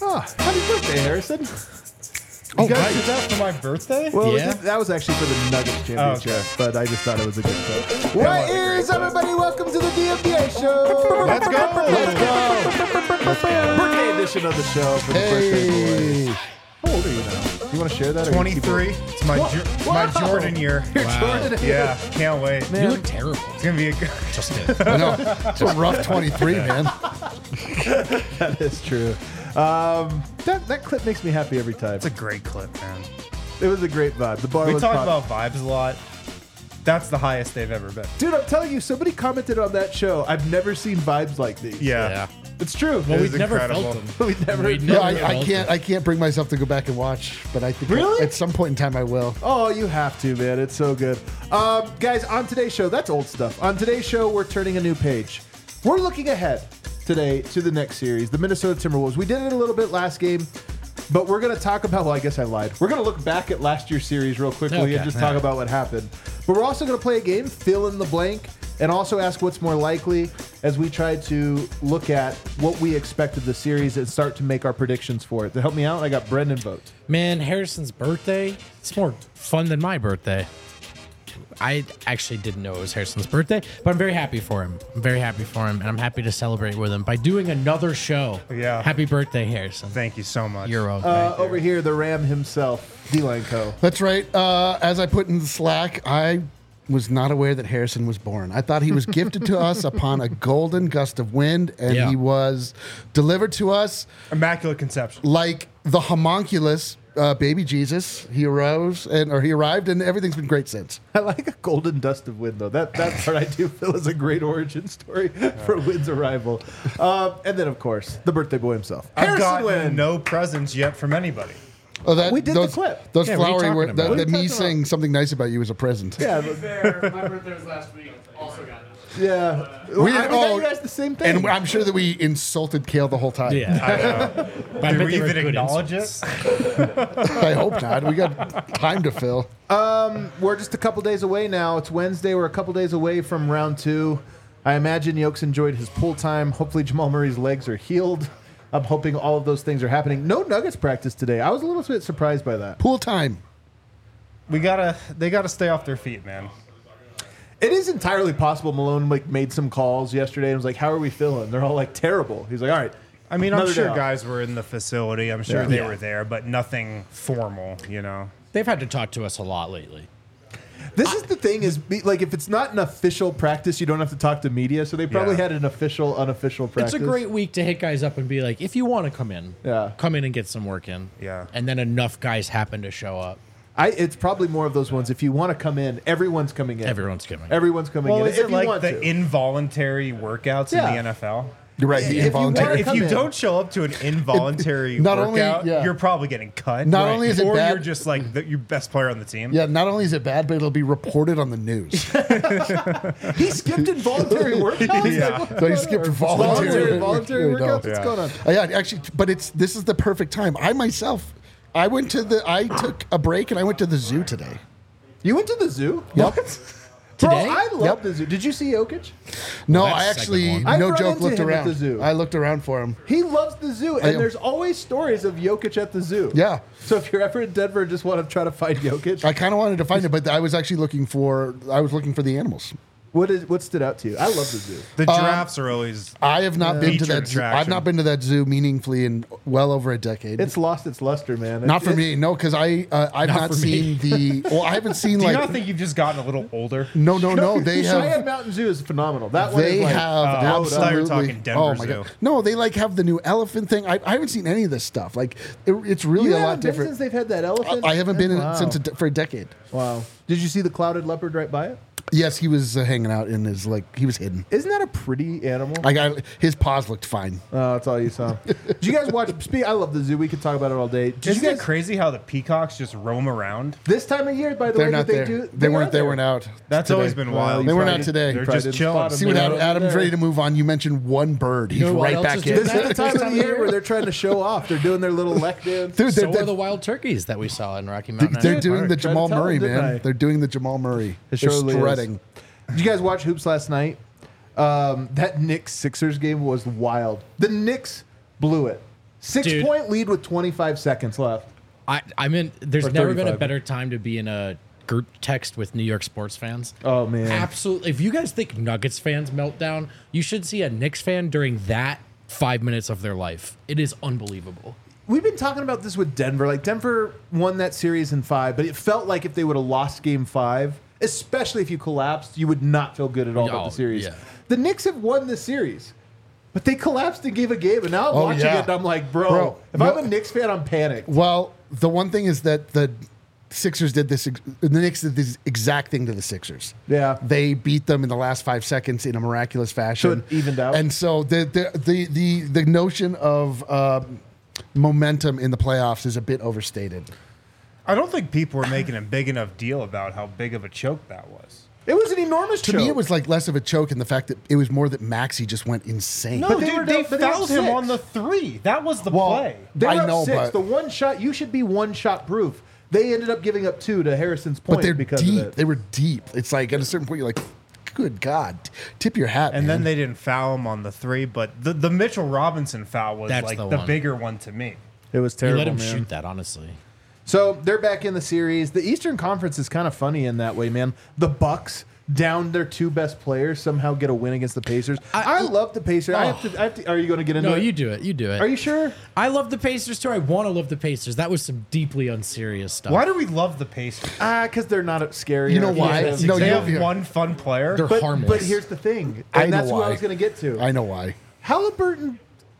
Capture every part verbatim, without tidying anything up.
Oh, happy birthday, Harrison. Oh, You guys right. did Is that for my birthday? Well, Yeah. that, that was actually for the Nuggets championship, Oh, okay. but I just thought it was a good clip. What is everybody? Welcome to the D M B A show. Let's go. Let's go. Let's go. Birthday edition of the show for the birthday boy. Hey. How old are you now? You want to share that? or you keep it- twenty-three. It's my jo- it's my Wow. Jordan year. You're Wow. Jordan. Yeah, can't wait. Man. You look terrible. It's gonna be a good. Just kidding. I know. It's a rough twenty-three, man. That is true. Um, that that clip makes me happy every time. It's a great clip, man. It was a great vibe. The bar We was talk pop- about vibes a lot. That's the highest they've ever been. Dude, I'm telling you, somebody commented on that show. I've never seen vibes like these. Yeah. Yeah. It's true. Well, It we've was never incredible. felt them. We'd never. We'd Yeah, never I, I felt can't. them. I can't bring myself to go back and watch, but I think Really? at some point in time I will. Oh, you have to, man. It's so good. Um, guys, on today's show, that's old stuff. On today's show, we're turning a new page. We're looking ahead today to the next series, the Minnesota Timberwolves. We did it a little bit last game, but we're going to talk about, well, I guess I lied. We're going to look back at last year's series real quickly Okay. and just talk Yeah. about what happened. But we're also going to play a game, fill in the blank, and also ask what's more likely as we try to look at what we expect of the series and start to make our predictions for it. To help me out, I got Brendan vote. Man, Harrison's birthday, it's more fun than my birthday. I actually didn't know it was Harrison's birthday, but I'm very happy for him. I'm very happy for him, and I'm happy to celebrate with him by doing another show. Yeah. Happy birthday, Harrison. Thank you so much. You're welcome. Uh, over here, the Ram himself, D-Line Co. That's right. Uh, as I put in the Slack, I was not aware that Harrison was born. I thought he was gifted to us upon a golden gust of wind, and Yeah. he was delivered to us Immaculate conception. like the homunculus uh, baby Jesus. He arose and or he arrived, and everything's been great since. I like a golden dust of wind, though. That that part I do feel is a great origin story for Wynn's arrival. Um, and then, of course, the birthday boy himself, I've Harrison gotten Wynn. no presents yet from anybody. Oh, that We did the those, clip. Those Yeah, what are you flowery talking words. about? The, What are the you me talking saying something nice about you was a present. Yeah, To be fair, my birthday was last week. Also got it. yeah. We- We, I mean, oh, you guys the same thing. And I'm sure that we insulted Kale the whole time. yeah. But I Did bet we they were even good acknowledge insults. it? I hope not. We got time to fill. We're just a couple days away now. It's Wednesday. We're a couple days away from round two. I imagine Yokes enjoyed his pool time. Hopefully, Jamal Murray's legs are healed. I'm hoping all of those things are happening. No Nuggets practice today. I was a little bit surprised by that. Pool time. We gotta. They gotta stay off their feet, man. It is entirely possible Malone like made some calls yesterday and was like, "How are we feeling?" They're all like, "Terrible." He's like, "All right." I mean, I'm Another sure day off. guys were in the facility. I'm sure Yeah. they Yeah. were there, but nothing formal. You know. They've had to talk to us a lot lately. This is the thing is be, like if it's not an official practice, you don't have to talk to media. So they probably Yeah. had an official, unofficial practice. It's a great week to hit guys up and be like, if you want to come in, Yeah. come in and get some work in. Yeah. And then enough guys happen to show up. I. It's probably more of those ones. If you want to come in, everyone's coming in. Everyone's coming. Everyone's coming Well, in. is if it you like want the to. involuntary workouts Yeah. in the N F L? You're right. The If you involuntary. wanna If come you in. don't show up to an involuntary not only- workout, yeah. you're probably getting cut. Not only is it or bad- you're just like the, your best player on the team. Yeah, not only is it bad, but it'll be reported on the news. He skipped involuntary workouts. Yeah. Like, So he skipped voluntary- voluntary, voluntary No. workouts. What's Yeah. going on? Uh, yeah, actually, but it's this is the perfect time. I myself, I went to the. I took a break and I went to the zoo today. You went to the zoo? Yep. Bro, Today? I love Yep. the zoo. Did you see Jokic? No, that's I the actually, second one. no I've run joke, into looked him at around. the zoo. I looked around for him. He loves the zoo, and am- there's always stories of Jokic at the zoo. Yeah. So if you're ever in Denver and just want to try to find Jokic, I kind of wanted to find it, but I was actually looking for. I was looking for the animals. what is what stood out to you? I love the zoo. The giraffes are always. I have not been to Featured that. Zoo. I've attraction. not been to that zoo meaningfully in well over a decade. It's lost its luster, man. not It- for it- me, no, because I uh, I've Not not, for me. seen the. Well, I haven't seen Do like. you not think you've just gotten a little older? no, no, no. They Cheyenne have. Mountain Zoo is phenomenal. That one They is like, have Oh, I thought you were absolutely. talking Denver oh my Zoo. god! No, they like have the new elephant thing. I, I haven't seen any of this stuff. Like it, it's really you a haven't lot been different. since they've had that elephant. I haven't been in Wow. it since a de- for a decade. Wow. Did you see the clouded leopard right by it? Yes, he was uh, hanging out in his like he was hidden. Isn't that a pretty animal? I got his paws looked fine. Oh, that's all you saw. Did you guys watch? Speak. I love the zoo. We could talk about it all day. Did Isn't you it guys? crazy how the peacocks just roam around? This time of year, by the They're way, not that they there. do. They, weren't. are They there. weren't out. That's today. always been Well, wild. you They were probably- not today. They're probably just didn't chilling. spot 'em. See what They're Adam, not Adam's there. ready to move on. You mentioned one bird. He's You know what right else back is in. doing This is that? the time of the year where they're trying to show off. They're doing their little lek dance. Dude, So they're, are they're, the wild turkeys that we saw in Rocky Mountain. they're National doing Park. the Tried to Jamal tell Murray, them, didn't man. I? They're doing the Jamal Murray. It They're surely is. strutting. Did you guys watch hoops last night? Um, that Knicks Sixers game was wild. The Knicks blew it. Six Dude. point lead with twenty-five seconds left. I, I'm in. There's Or never been a thirty-five. better time to be in a group text with New York sports fans. Oh, man. Absolutely. If you guys think Nuggets fans meltdown, you should see a Knicks fan during that five minutes of their life. It is unbelievable. We've been talking about this with Denver. Like, Denver won that series in five, but it felt like if they would have lost game five, especially if you collapsed, you would not feel good at all about Oh, the series. yeah. The Knicks have won this series, but they collapsed and gave a game, and now I'm Oh, watching yeah. it, and I'm like, bro, Bro, if no- I'm a Knicks fan, I'm panicked. Well, the one thing is that the Sixers did this. ex- The Knicks did this exact thing to the Sixers. Yeah. They beat them in the last five seconds in a miraculous fashion. So it evened out? And so the the the the, the notion of um, momentum in the playoffs is a bit overstated. I don't think people were making a big enough deal about how big of a choke that was. It was an enormous To choke. me, it was like less of a choke in the fact that it was more that Maxey just went insane. No, But they dude, were they, down- but they were fouled him six. on the three. That was the Well, play. They were I up know, six. but- The one shot, you should be one shot proof. They ended up giving up two to Harrison's point But they're because deep. of it. They were deep. It's like at a certain point, you're like, good God, tip your hat. And man. then they didn't foul him on the three, but the, the Mitchell Robinson foul was That's like the the, one. bigger one to me. It was You terrible, let him man. shoot that, honestly. So they're back in the series. The Eastern Conference is kind of funny in that way, man. The Bucks down their two best players somehow get a win against the Pacers. I, I- love the Pacers. I have to. I have to. Are you going to get into No, it? you do it. You do it. Are you sure? I love the Pacers too. I want to love the Pacers. That was some deeply unserious stuff. Why do we love the Pacers? Ah, because they're not scary. You know or why? anything. No, they you have know- one fun player. They're But, harmless. but here's the thing, I and know that's what why. I was going to get to. I know why. Halliburton,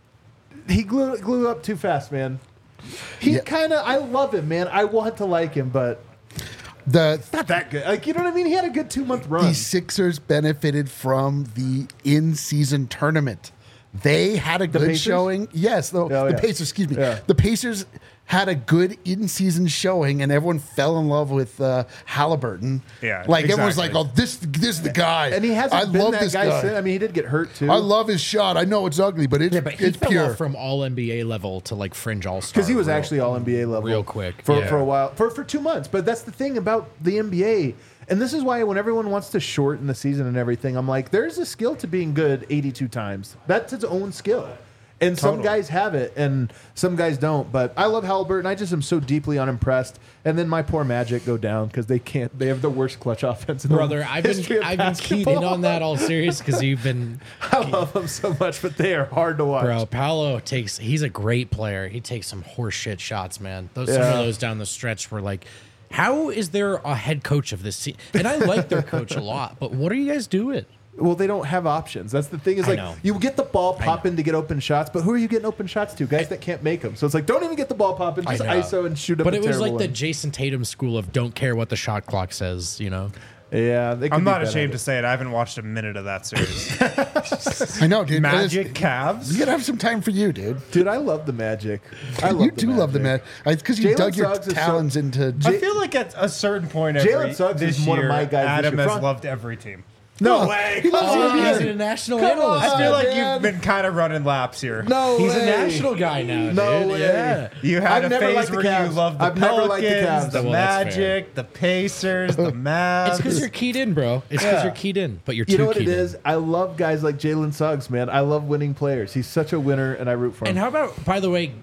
he glue, glue up too fast, man. He Yeah. kind of. I love him, man. I want to like him, but The not that good. Like, you know what I mean? He had a good two month run. the Sixers benefited from the in-season tournament. They had a good Pacers? showing. Yes, the, Oh, the yeah. Pacers. Excuse me. Yeah. The Pacers had a good in-season showing, and everyone fell in love with uh, Halliburton. Yeah, like everyone's like, exactly. "Oh, this, this is the guy." and he hasn't I been love that this guy, guy. since. I mean, he did get hurt too. I love his shot. I know it's ugly, but it's Yeah, but he it's fell pure. off from all N B A level to like fringe all star. because he was actually all N B A level real quick, for, yeah. for a while for for two months. But that's the thing about the N B A, and this is why when everyone wants to shorten the season and everything, I'm like, there's a skill to being good eighty-two times. That's its own skill. And some Totally. guys have it, and some guys don't. But I love Halliburton. I just am so deeply unimpressed. And then my poor Magic go down because they can't. They have the worst clutch offense in the Brother, I've history been of I've been keyed in basketball. on that all serious because you've been I love them so much, but they are hard to watch. bro. Paolo takes he's a great player. He takes some horseshit shots, man. Those some Yeah. of those down the stretch were like, how is there a head coach of this team? And I like their coach a lot, but what are you guys doing? Well, they don't have options. That's the thing. Is I like know. you get the ball popping to get open shots, but who are you getting open shots to? Guys that can't make them. So it's like don't even get the ball popping. Just know. I S O and shoot up. But a it was like terrible the one. Jason Tatum school of don't care what the shot clock says, you know. Yeah, they could I'm be not better ashamed at to say it. I haven't watched a minute of that series. I know, dude. Magic It's- Cavs. You gotta have some time for you, dude. it. Dude, I love the Magic. I love you the do love the Magic. Magic. Because you Jalen dug your Suggs is so- talons into. I feel like at a certain point, every, Jalen Suggs this is one of year, my guys this Adam year. has Front- loved every team. No Oh, way. he loves Come the on. N B A. He's a national Come analyst. on. I feel like man. you've been kind of running laps here. No He's way. a national guy now, No dude. way. Yeah. You had I've a never phase liked the where Cavs. you loved the I've never liked the Pelicans, Cavs. the Well, that's Magic, the Pacers, the Mavs. It's because you're keyed in, bro. It's because Yeah. you're keyed in, but you're You too know what it keyed in. is? I love guys like Jalen Suggs, man. I love winning players. He's such a winner, and I root for him. And how about, by the way,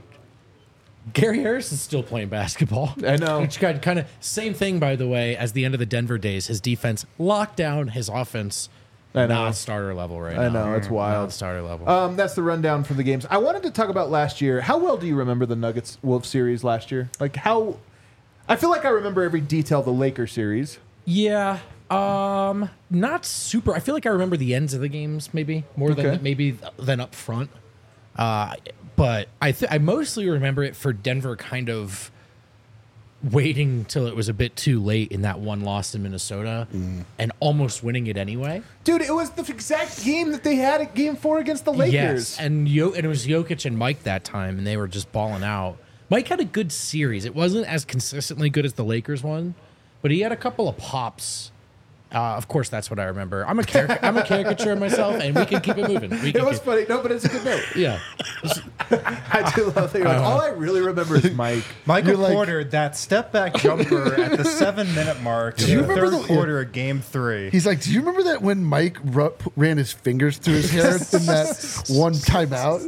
Gary Harris is still playing basketball. I know. Which got kind of same thing, by the way, as the end of the Denver days. His defense locked down, his offense I know. not starter level right I now. know, it's wild. Not starter level. Um, that's the rundown for the games. I wanted to talk about last year. How well do you remember the Nuggets Wolves series last year? Like how? I feel like I remember every detail of the Lakers series. yeah. Um, not super. I feel like I remember the ends of the games maybe more Okay. than maybe than up front. Uh, but I th- I mostly remember it for Denver kind of waiting till it was a bit too late in that one loss in Minnesota and almost winning it anyway. Dude, it was the exact game that they had at Game Four against the Lakers. Yes, and Yo- and it was Jokic and Mike that time, and they were just balling out. Mike had a good series. It wasn't as consistently good as the Lakers one, but he had a couple of pops. Uh, of course, that's what I remember. I'm a caric- I'm a caricature of myself, and we can keep it moving. We It can was keep- funny. No, but it's a good note. yeah. I do love that. You're like, all I really remember is Mike. Michael You're like- Porter, that step back jumper at the seven minute mark in you the remember third the- quarter of game three. He's like, do you remember that when Mike ru- ran his fingers through his hair in that one timeout?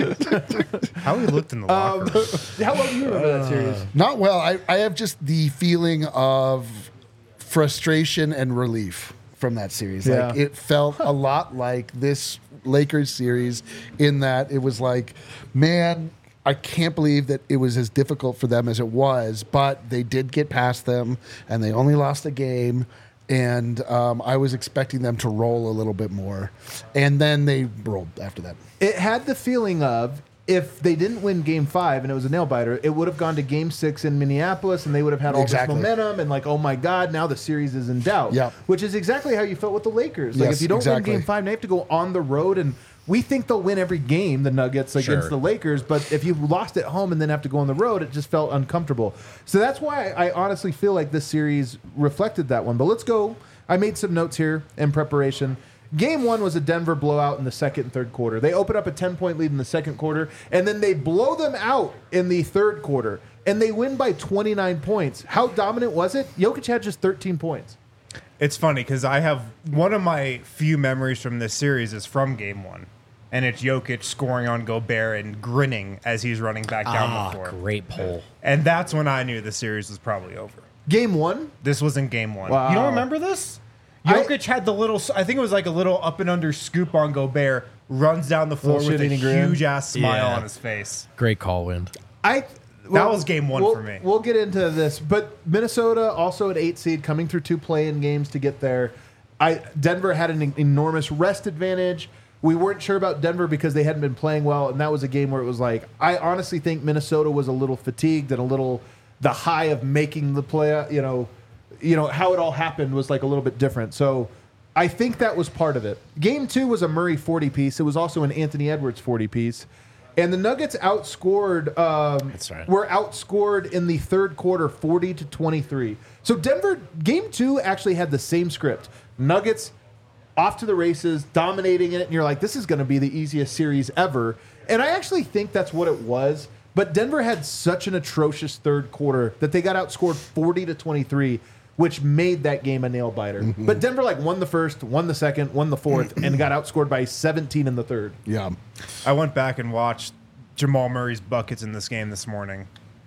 How he looked in the locker Um, room. how well do you remember that series? Not well. I, I have just the feeling of frustration and relief from that series. Like Yeah. it felt a lot like this Lakers series in that it was like, man, I can't believe that it was as difficult for them as it was, but they did get past them and they only lost a game. And um, I was expecting them to roll a little bit more. And then they rolled after that. It had the feeling of if they didn't win game five and it was a nail biter, it would have gone to game six in Minneapolis and they would have had all Exactly. this momentum and like, oh my God, now the series is in doubt. Yep. Which is exactly how you felt with the Lakers. Like Yes, if you don't exactly. win game five, now you have to go on the road and we think they'll win every game, the Nuggets against Sure. the Lakers, but if you lost at home and then have to go on the road, it just felt uncomfortable. So that's why I honestly feel like this series reflected that one. But let's go. I made some notes here in preparation. Game one was a Denver blowout in the second and third quarter. They open up a ten-point lead in the second quarter, and then they blow them out in the third quarter, and they win by twenty-nine points. How dominant was it? Jokic had just thirteen points. It's funny because I have one of my few memories from this series is from game one. And it's Jokic scoring on Gobert and grinning as he's running back down Ah, the floor. great poll. And that's when I knew the series was probably over. Game one? This was in game one. Wow. You don't remember this? I- Jokic had the little, I think it was like a little up and under scoop on Gobert, runs down the floor Little with a shit-eating grin. huge ass smile Yeah. on his face. Great call, Wind. I That was game one we'll- for me. We'll get into this, but Minnesota also at eight seed, coming through two play-in games to get there. I Denver had an enormous rest advantage. We weren't sure about Denver because they hadn't been playing well, and that was a game where it was like I honestly think Minnesota was a little fatigued and a little the high of making the play. You know, you know how it all happened was like a little bit different. So I think that was part of it. Game two was a Murray forty piece. It was also an Anthony Edwards forty piece. And the Nuggets outscored. Um, That's right. Were outscored in the third quarter, forty to twenty-three. So Denver, game two actually had the same script. Nuggets off to the races, dominating it, and you're like, this is going to be the easiest series ever. And I actually think that's what it was. But Denver had such an atrocious third quarter that they got outscored forty to twenty-three, which made that game a nail biter. Mm-hmm. But Denver like won the first, won the second, won the fourth, and got outscored by seventeen in the third. Yeah. I went back and watched Jamal Murray's buckets in this game this morning.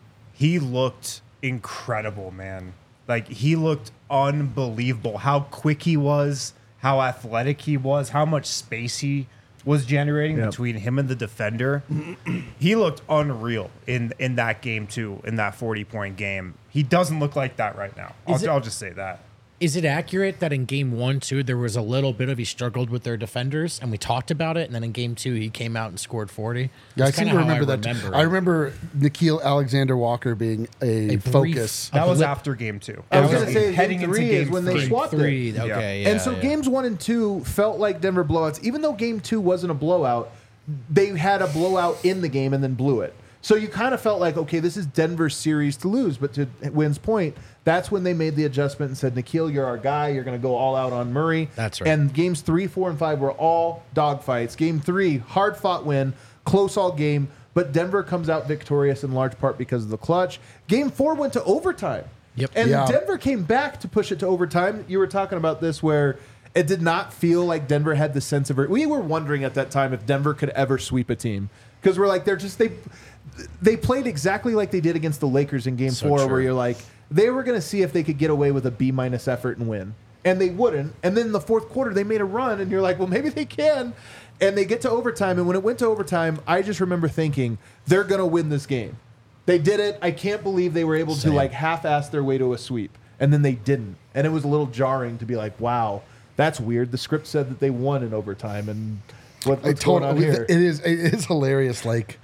He looked incredible, man. Like, he looked unbelievable. How quick he was, how athletic he was, how much space he was generating Yep. between him and the defender. He looked unreal in, in that game, too, in that forty-point game. He doesn't look like that right now. I'll, Is it- I'll just say that. Is it accurate that in game one, too, there was a little bit of he struggled with their defenders, and we talked about it, and then in game two, he came out and scored forty? Yeah, I That's seem kinda to how remember that. remember I it. remember Nikhil Alexander Walker being a, A brief- focus. A That was blip- after game two. I was That gonna say, heading game into three is game when they three. swapped it. Three, okay, yeah. and so yeah. games one and two felt like Denver blowouts. Even though game two wasn't a blowout, they had a blowout in the game and then blew it. So you kind of felt like, okay, this is Denver's series to lose. But to Wynn's point, that's when they made the adjustment and said, Nikhil, you're our guy. You're going to go all out on Murray. That's right. And games three, four, and five were all dogfights. Game three, hard fought win, close all game. But Denver comes out victorious in large part because of the clutch. Game four went to overtime. Yep. And Yeah. Denver came back to push it to overtime. You were talking about this where it did not feel like Denver had the sense of it. We were wondering at that time if Denver could ever sweep a team because we're like they're just they they played exactly like they did against the Lakers in Game So Four, true. where you're like they were going to see if they could get away with a B minus effort and win, and they wouldn't. And then in the fourth quarter they made a run, and you're like, well, maybe they can. And they get to overtime, and when it went to overtime, I just remember thinking they're going to win this game. They did it. I can't believe they were able Same. to like half-ass their way to a sweep, and then they didn't. And it was a little jarring to be like, "Wow, that's weird." The script said that they won in overtime, and what, I what's told going on it here? is it is hilarious, like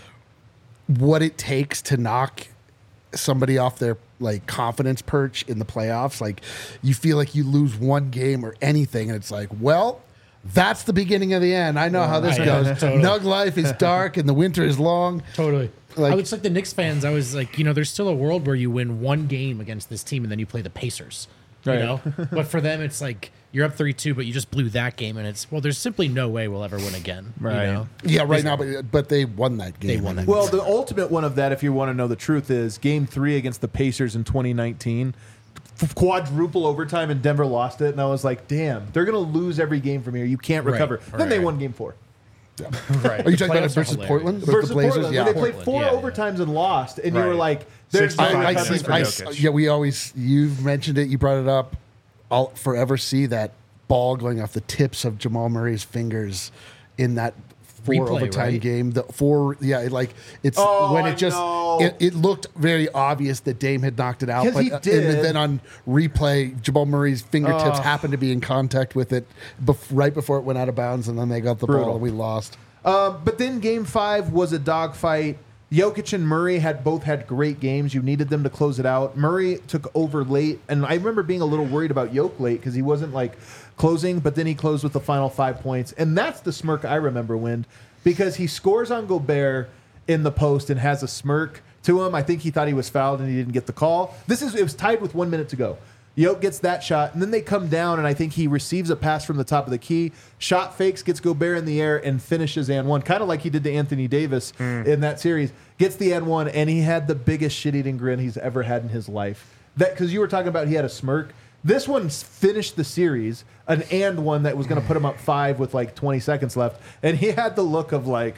what it takes to knock somebody off their like confidence perch in the playoffs. Like you feel like you lose one game or anything, and it's like, well, that's the beginning of the end. I know how this Yeah, goes. totally. Nug life is dark and the winter is long. Totally. Like- I was like the Knicks fans. I was like, you know, there's still a world where you win one game against this team and then you play the Pacers. You Right. know, but for them, it's like you're up three two, but you just blew that game, and it's, well, there's simply no way we'll ever win again. Right. You know? Yeah, right now, but but they won that game. They won that Well, the ultimate one of that, if you want to know the truth, is Game Three against the Pacers in twenty nineteen. Quadruple overtime, and Denver lost it, and I was like, "Damn, they're gonna lose every game from here. You can't Right, recover." Then they right. won Game Four Right. Are you talking about playoffs are versus hilarious. Portland? With versus the Blazers? Portland. Yeah. When they played Portland, four yeah, yeah. overtimes and lost, and you were Right. like, "There's no sixty-five I, I recovery points see. for from I, this." Jokic. yeah, we always. You've mentioned it. You brought it up. I'll forever see that ball going off the tips of Jamal Murray's fingers in that four Replay, overtime right? game. The four, yeah, it, like it's Oh, when I it just know. it, it looked very obvious that Dame had knocked it out. 'Cause But he uh, did. and then on replay, Jamal Murray's fingertips Oh. happened to be in contact with it bef- right before it went out of bounds, and then they got the Brutal. ball and we lost. Um, but then Game Five was a dogfight. Jokic and Murray had both had great games. You needed them to close it out. Murray took over late, and I remember being a little worried about Jokic late because he wasn't like closing, but then he closed with the final five points, and that's the smirk I remember, Wind, because he scores on Gobert in the post and has a smirk to him. I think he thought he was fouled and he didn't get the call. This is it was tied with one minute to go. Jokic gets that shot, and then they come down, and I think he receives a pass from the top of the key. Shot fakes, gets Gobert in the air, and finishes and one, kind of like he did to Anthony Davis in that series. Gets the and one, and he had the biggest shit-eating grin he's ever had in his life. That because you were talking about he had a smirk. This one finished the series, an and one that was going to put him up five with like twenty seconds left, and he had the look of like,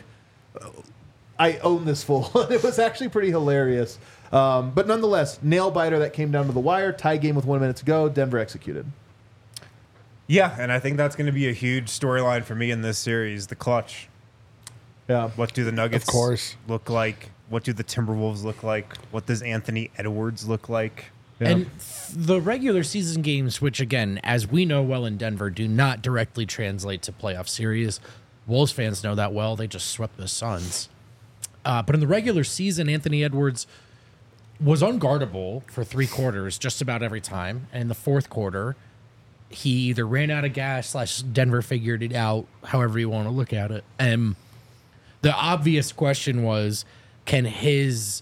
I own this fool. It was actually pretty hilarious. Um, but nonetheless, nail biter that came down to the wire. Tie game with one minute to go. Denver executed. Yeah, and I think that's going to be a huge storyline for me in this series. The clutch. Yeah. What do the Nuggets Of course. look like? What do the Timberwolves look like? What does Anthony Edwards look like? Yeah. And f- the regular season games, which again, as we know well in Denver, do not directly translate to playoff series. Wolves fans know that well. They just swept the Suns. Uh, but in the regular season, Anthony Edwards was unguardable for three quarters just about every time. And in the fourth quarter, he either ran out of gas slash Denver figured it out, however you want to look at it. And the obvious question was, can his...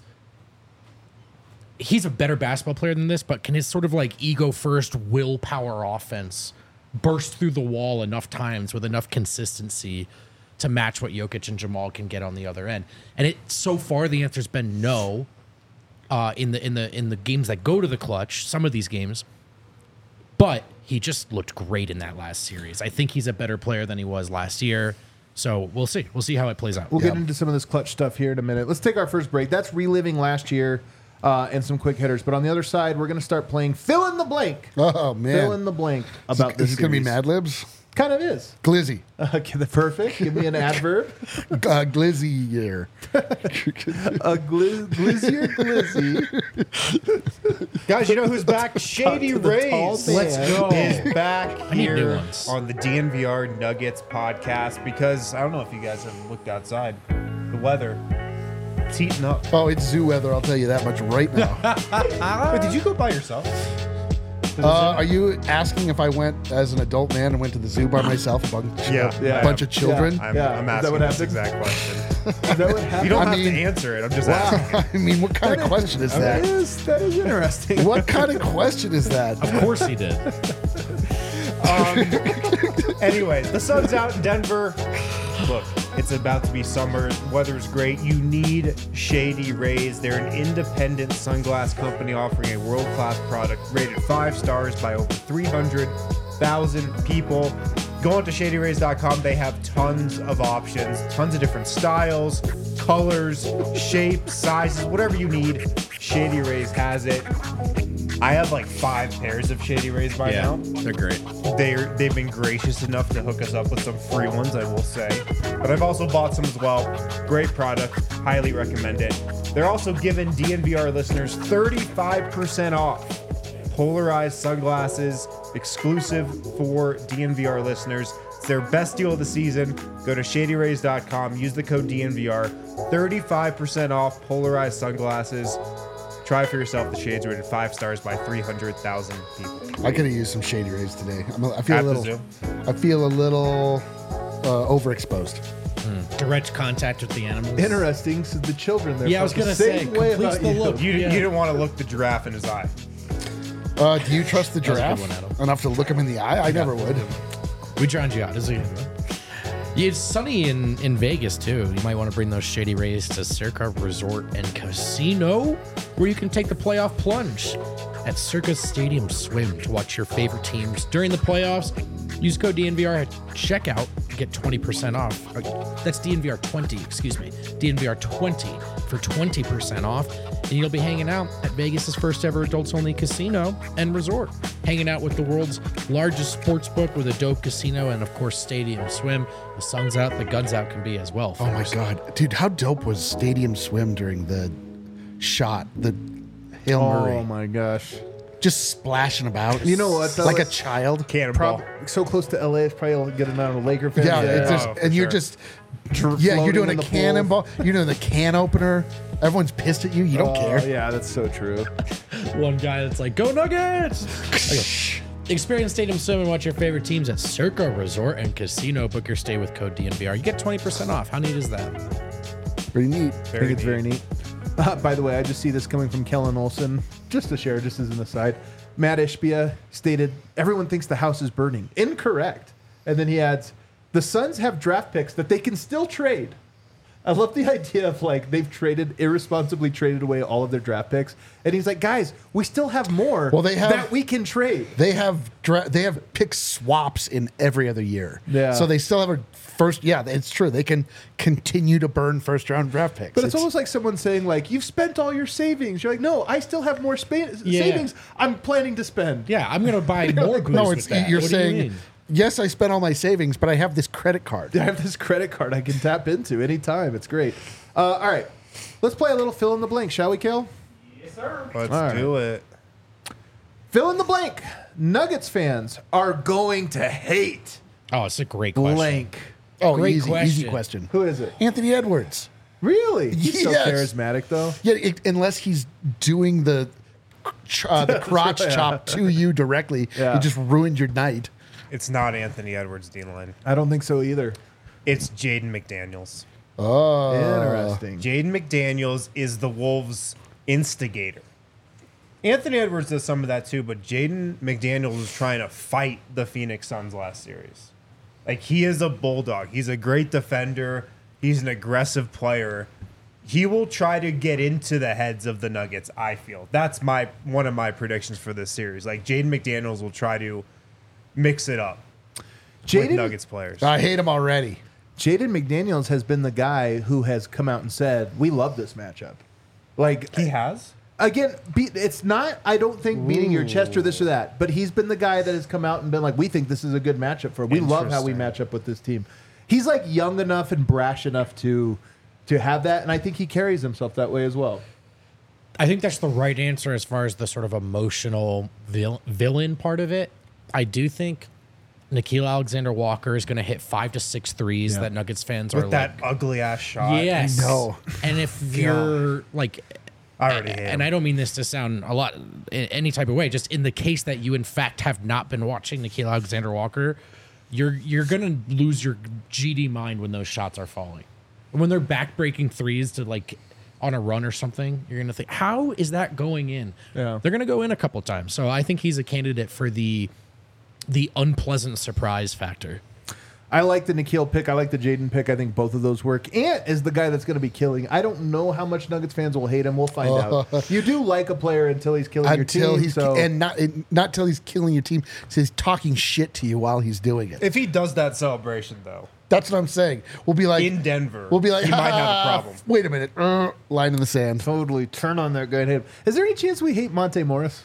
He's a better basketball player than this, but can his sort of like ego first willpower offense burst through the wall enough times with enough consistency to match what Jokic and Jamal can get on the other end? And it so far the answer's been no. Uh, in the in the in the games that go to the clutch, some of these games, but he just looked great in that last series. I think he's a better player than he was last year. So we'll see. We'll see how it plays out. We'll get into some of this clutch stuff here in a minute. Let's take our first break. That's reliving last year uh, and some quick hitters. But on the other side, we're going to start playing fill in the blank. Oh man, Fill in the blank about is this. this going to be series. Mad Libs? Kind of is. Glizzy, Okay, the perfect. Give me an adverb. uh, Glizzy year. A gli- glizzy or glizzy. Guys, you know who's back? Shady to the Rays. tall man. Let's go. Is back I need new here ones. on the D N V R Nuggets podcast because I don't know if you guys have looked outside. The weather, it's heating up. Oh, it's zoo weather. I'll tell you that much right now. Wait, did you go by yourself? Uh, are you asking if I went as an adult man and went to the zoo by myself, a bunch, Yeah, a yeah. bunch of children? I'm, Yeah, I'm is that asking what this happened? exact question. Is that what happened? You don't I have mean- to answer it. I'm just asking. I mean, what kind of question is That that? is, that is interesting. What kind of question is that? Of course he did. Anyway, the sun's out in Denver. Look, it's about to be summer. Weather's great. You need Shady Rays. They're an independent sunglass company offering a world-class product rated five stars by over three hundred thousand people. Go on to shady rays dot com. They have tons of options, tons of different styles, colors, shapes, sizes, whatever you need. Shady Rays has it. I have like five pairs of Shady Rays by Yeah, now. they're great. They're, they've been gracious enough to hook us up with some free ones, I will say. But I've also bought some as well. Great product. Highly recommend it. They're also giving D N V R listeners thirty-five percent off polarized sunglasses exclusive for D N V R listeners. It's their best deal of the season. Go to shady rays dot com. Use the code D N V R. thirty-five percent off polarized sunglasses. Try for yourself. The shades rated five stars by three hundred thousand people. I could have used some Shady Rays today. I'm a, I feel At a the little. zoo. I feel a little uh, overexposed. Direct contact with the animals. Interesting. So the children there. Yeah, I was felt the gonna say, same way completes about the you. look. You, Yeah. you didn't want to look the giraffe in his eye. Uh, do you trust the was a good giraffe one, Adam. enough to look him in the eye? I never would. We drowned you out. It's a good one. Yeah, it's sunny in, in Vegas, too. You might want to bring those Shady Rays to Circa Resort and Casino, where you can take the playoff plunge at Circa Stadium Swim to watch your favorite teams during the playoffs. Use code D N V R at checkout to get twenty percent off. That's D N V R twenty, excuse me. D N V R twenty for twenty percent off. And you'll be hanging out at Vegas's first ever adults only casino and resort. Hanging out with the world's largest sports book with a dope casino and, of course, Stadium Swim. The sun's out, the gun's out can be as well. Oh my folks. God. Dude, how dope was Stadium Swim during the shot, the Hail Murray? Oh my gosh. Just splashing about. You know what, though? Like a It's child. Cannonball. Prob- so close to L A, it's probably getting out of Laker fans. Yeah, it's just, Oh, for and you're sure. just, Dr- yeah, you're floating doing in a the pool. cannonball. You're doing the can opener. Everyone's pissed at you. You don't Oh, care. yeah, that's so true. One guy that's like, go Nuggets! Okay. Experience Stadium Swim and watch your favorite teams at Circa Resort and Casino. Book your stay with code D N V R. You get twenty percent off. How neat is that? Pretty neat. I think it's very neat. Uh, by the way, I just see this coming from Kellen Olson. Just to share, just as an aside. Matt Ishbia stated, everyone thinks the house is burning. Incorrect. And then he adds, the Suns have draft picks that they can still trade. I love the idea of like they've traded, irresponsibly traded away all of their draft picks. And he's like, guys, we still have more Well, they have- that we can trade. They have dra- they have pick swaps in every other year. Yeah. So they still have a first. Yeah, it's true. They can continue to burn first round draft picks. But it's, almost like someone saying, like, you've spent all your savings. You're like, no, I still have more spa- Yeah. savings I'm planning to spend. Yeah, I'm going to buy more booze no. with It's that. you're What do you saying. mean? Yes, I spent all my savings, but I have this credit card. I have this credit card I can tap into anytime. It's great. Uh, all right. Let's play a little fill in the blank, shall we, Kale? Yes, sir. Let's All right. do it. Fill in the blank. Nuggets fans are going to hate Oh, it's a great question. blank. Oh, Great easy, question. easy question. Who is it? Anthony Edwards. Really? He's so Yes. charismatic, though. Yeah, it, unless he's doing the ch- uh, the crotch chop to you directly, Yeah. it just ruined your night. It's not Anthony Edwards, D-line. I don't think so either. It's Jaden McDaniels. Oh, Interesting. Jaden McDaniels is the Wolves' instigator. Anthony Edwards does some of that too, but Jaden McDaniels was trying to fight the Phoenix Suns last series. Like, he is a bulldog. He's a great defender. He's an aggressive player. He will try to get into the heads of the Nuggets, I feel. That's my one of my predictions for this series. Like, Jaden McDaniels will try to mix it up with Jaden Nuggets players. I hate him already. Jaden McDaniels has been the guy who has come out and said, we love this matchup. Like, He has? again, beat, it's not, I don't think, beating your chest or this or that, but he's been the guy that has come out and been like, we think this is a good matchup for him. We love how we Interesting. match up with this team. He's like young enough and brash enough to to have that, and I think he carries himself that way as well. I think that's the right answer as far as the sort of emotional vil- villain part of it. I do think Nikhil Alexander-Walker is going to hit five to six threes Yeah. that Nuggets fans are With that like, ugly ass shot. yes. I know. And if you're like, I already hate and him. I don't mean this to sound a lot in any type of way, just in the case that you in fact have not been watching Nikhil Alexander-Walker, you're you're gonna lose your G D mind when those shots are falling. When they're back-breaking threes to like on a run or something, you're gonna think, how is that going in? Yeah. They're gonna go in a couple times. So I think he's a candidate for the the unpleasant surprise factor. I like the Nikhil pick. I like the Jaden pick. I think both of those work. Ant is the guy that's going to be killing. I don't know how much Nuggets fans will hate him. We'll find out. You do like a player until he's killing Until your team. he's so and not it- not till he's killing your team. So he's talking shit to you while he's doing it. If he does that celebration, though, That's what I'm saying. We'll be like in Denver, We'll be like, he might have a "Ah, problem. Wait a minute, uh, line in the sand. totally turn on that guy and hate him. Is there any chance we hate Monte Morris?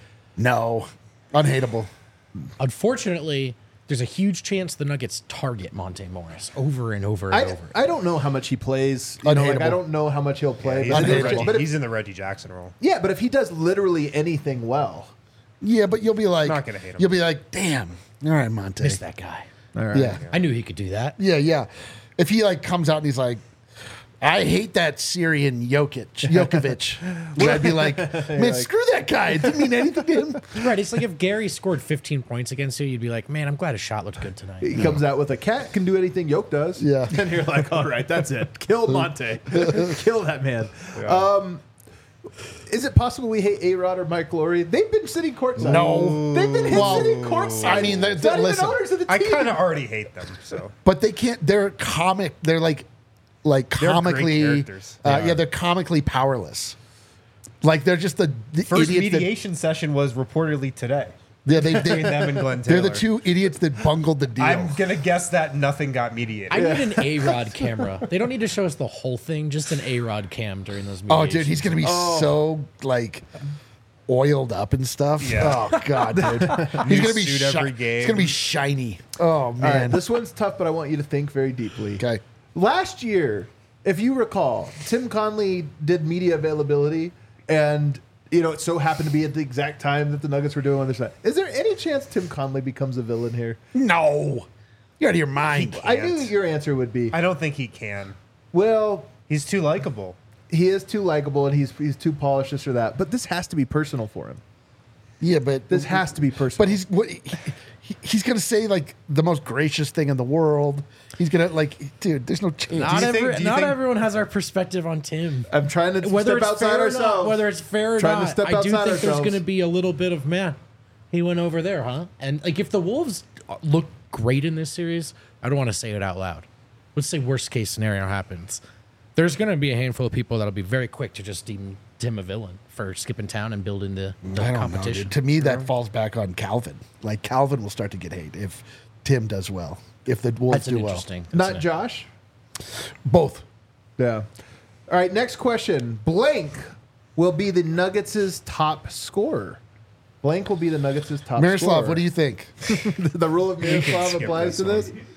No, unhateable. Unfortunately, there's a huge chance the Nuggets target Monte Morris over and over and I, over. I don't know how much he plays. You know, like, I Unhateable. don't know how much he'll play. He's, but, in the if- unhateable. Reggie, but if- he's in the Reggie Jackson role. yeah, but if he does literally anything well, Yeah, but you'll be like, Not gonna hate him. You'll be like, damn. All right, Monte. Miss that guy. all right. Yeah, I knew he could do that. yeah, yeah. If he like comes out and he's like, I hate that Syrian Jokic, Jokovic, then I'd be like, man, screw that guy. It didn't mean anything to him. Right. It's like if Gary scored fifteen points against you, you'd be like, man, I'm glad his shot looked good tonight. He comes out with a cat can do anything Yoke does. Yeah. And you're like, all right, that's it. Kill Monte. Kill that man. Um, Is it possible we hate A-Rod or Mike Laurie? They've been sitting courtside. No. They've been Well, sitting courtside. I mean, they're- It's not listen, even owners of the I team. kind of already hate them. So But they can't. They're comic. They're like, like They're great comically. characters. Uh, They are. yeah, they're comically powerless. Like they're just the, the first idiots that- mediation session was reportedly today yeah, they, between they, them and Glenn they're Taylor. the two idiots that bungled the deal. I'm gonna guess that nothing got mediated. I need an A-Rod camera. They don't need to show us the whole thing, just an A-Rod cam during those oh, mediations. dude, he's gonna be so like oiled up and stuff. Yeah. Oh god, dude, he's gonna be suit shi- every He's gonna be game. shiny. Oh All right, man. this one's tough, but I want you to think very deeply. Okay. Last year, if you recall, Tim Conley did media availability, and you know it so happened to be at the exact time that the Nuggets were doing on their side. Is there any chance Tim Conley becomes a villain here? No, you're out of your mind. I knew Can't. your answer would be. I don't think he can. Well, He's too likable. he is too likable and he's he's too polished, this or that. But this has to be personal for him. Yeah, but This has to be personal. But he's what, he, he- he's gonna say like the most gracious thing in the world. He's gonna like, dude. There's no chance. Not, Do you think- every, do you not think- everyone has our perspective on Tim. I'm trying to Whether step it's outside fair or ourselves. not, whether it's fair or Trying to not, step I do outside think there's ourselves. going to be a little bit of man. He went over there, huh? And like, if the Wolves look great in this series, I don't want to say it out loud. Let's say worst case scenario happens. There's going to be a handful of people that'll be very quick to just deem Tim a villain for skipping town and building the, the I don't know, competition. dude. To me, that falls back on Calvin. Like Calvin will start to get hate if Tim does well. If the Wolves That's an do well, interesting. that's Not an- Josh. both. Yeah. All right. Next question. Blank will be the Nuggets' top scorer. Blank will be the Nuggets' top Miroslav, scorer. what do you think? the rule of Miroslav skip applies to this this?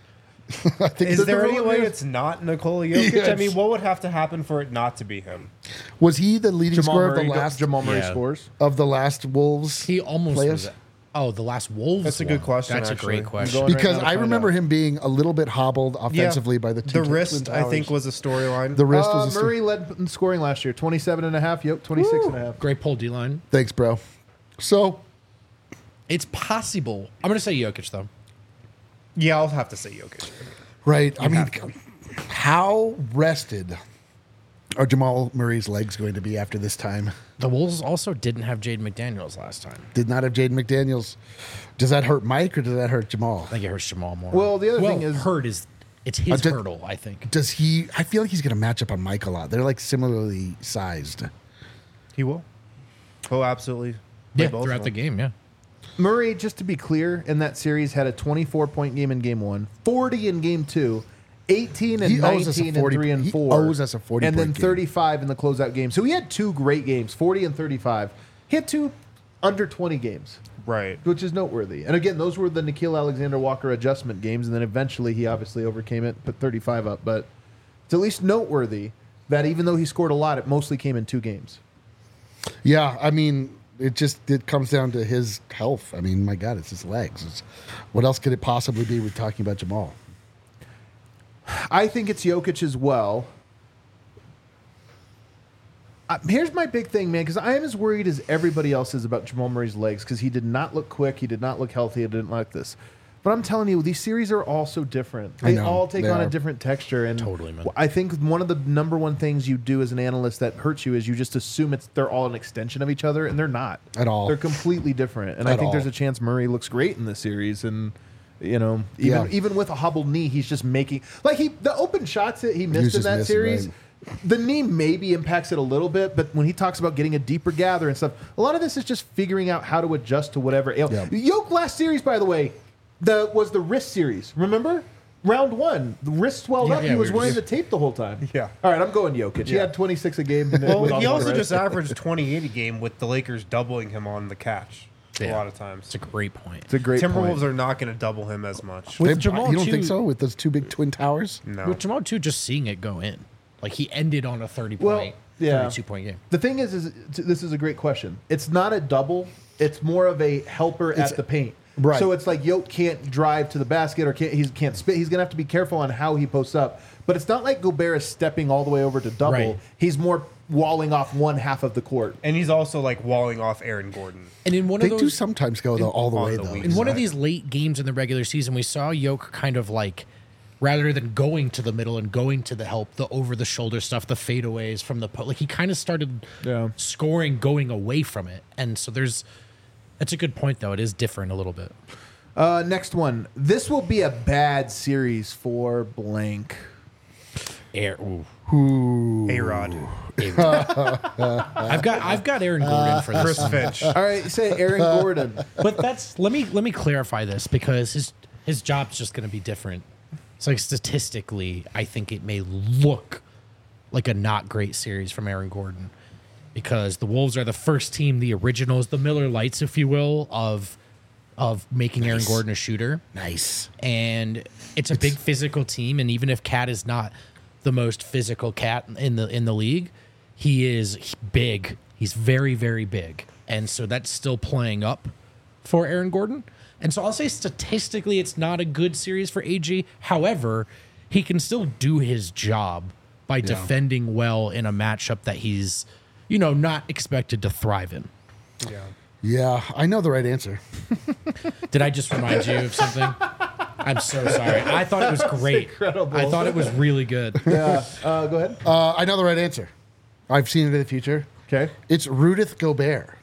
I think Is the there any rule way is- it's not Nikola Jokic? Yes. I mean, what would have to happen for it not to be him? was he the leading Jamal scorer Murray, of the last Jamal Murray Yeah. scores. of the last Wolves? He almost playoffs? was. Oh, the last Wolves. That's a good one. question, That's actually. a great question. going- right Because now to I find remember out. him being a little bit hobbled offensively by the two the Twin wrist. I think Towers. was a storyline. the wrist Uh, was a Murray led in scoring last year. twenty-seven and a half. Yep, twenty-six and a half. Great pull, D-line. Thanks, bro. So It's possible. I'm going to say Jokic, though. Yeah, I'll have to say Jokic. right, I mean, have to. how rested are Jamal Murray's legs going to be after this time? The Wolves also didn't have Jaden McDaniels last time. Did not have Jaden McDaniels. Does that hurt Mike or does that hurt Jamal? I think it hurts Jamal more. Well, the other well, thing is- hurt is it's his Uh, did- hurdle. I think. Does he? I feel like he's going to match up on Mike a lot. They're like similarly sized. He will. Oh, absolutely. Play Yeah, both throughout of the them. game. Yeah. Murray, just to be clear, in that series had a twenty-four point game in game one, forty in game two, eighteen and He owes us a nineteen and forty three and he four. owes us a forty and then point game. thirty-five in the closeout game. So he had two great games, forty and thirty-five. He had two under twenty games, Right. which is noteworthy. And again, those were the Nikhil Alexander Walker adjustment games, and then eventually he obviously overcame it, put thirty-five up. But it's at least noteworthy that even though he scored a lot, it mostly came in two games. Yeah, I mean, it just it comes down to his health. I mean, my God, it's his legs. It's, what else could it possibly be? We're talking about Jamal. I think it's Jokic as well. Uh, here's my big thing, man, because I am as worried as everybody else is about Jamal Murray's legs because he did not look quick, he did not look healthy, he didn't like this. But I'm telling you, these series are all so different. I They know, all take they on are. a different texture, and Totally, man. I think one of the number one things you do as an analyst that hurts you is you just assume it's they're all an extension of each other, and they're not At all. They're completely different, and I At think there's all. a chance Murray looks great in this series, and. You know, even Yeah. even with a hobbled knee, he's just making like he the open shots that he missed was in just that missing, series. right. The knee maybe impacts it a little bit, but when he talks about getting a deeper gather and stuff, a lot of this is just figuring out how to adjust to whatever ail. Yeah. Yoke last series, by the way, the was the wrist series. Remember? Round one, the wrist swelled Yeah, up. yeah, he we was were wearing just- the tape the whole time. Yeah. All right, I'm going Jokic. He Yeah. had twenty-six a game. with Well, all he the also rest. just averaged twenty-eight a game with the Lakers doubling him on the catch a Yeah. lot of times. It's a great point. It's a great Timberwolves point. are not going to double him as much. With They- Jamal, you don't too- think so? With those two big twin towers? No. With Jamal too, just seeing it go in, like he ended on a thirty Well, point, yeah. thirty-two point game. The thing is, is this is a great question. It's not a double. It's more of a helper It's- at the paint. right. So it's like Yoke can't drive to the basket or can't he can't spit. He's gonna have to be careful on how he posts up. But it's not like Gobert is stepping all the way over to double. Right. He's more walling off one half of the court. And he's also like walling off Aaron Gordon. And in one They of those, do sometimes go though all the on way the though. weak in one of side. these late games in the regular season, we saw Yoke kind of like rather than going to the middle and going to the help, the over the shoulder stuff, the fadeaways from the po- like he kind of started Yeah. scoring going away from it. And so there's that's a good point though. It is different a little bit. Uh, next one. This will be a bad series for blank. Air, ooh. A-Rod. I've got I've got Aaron Gordon for this. Chris one. Finch. All right, say Aaron Gordon. But that's let me let me clarify this because his his job's just going to be different. It's like statistically, I think it may look like a not great series from Aaron Gordon because the Wolves are the first team, the originals, the Miller Lights, if you will, of of making Aaron Gordon a shooter. Nice. And it's a big physical team, and even if Cat is not the most physical cat in the in the league, he is big. He's very, very big. And so that's still playing up for Aaron Gordon. And so I'll say statistically it's not a good series for A G. However, he can still do his job by defending well in a matchup that he's, you know, not expected to thrive in. Yeah. Yeah, I know the right answer. Did I just remind you of something? I'm so sorry. I thought it was great. incredible. I thought it was really good. Yeah. Uh, go ahead. Uh, I know the right answer. I've seen it in the future. Okay. It's Rudith Gobert.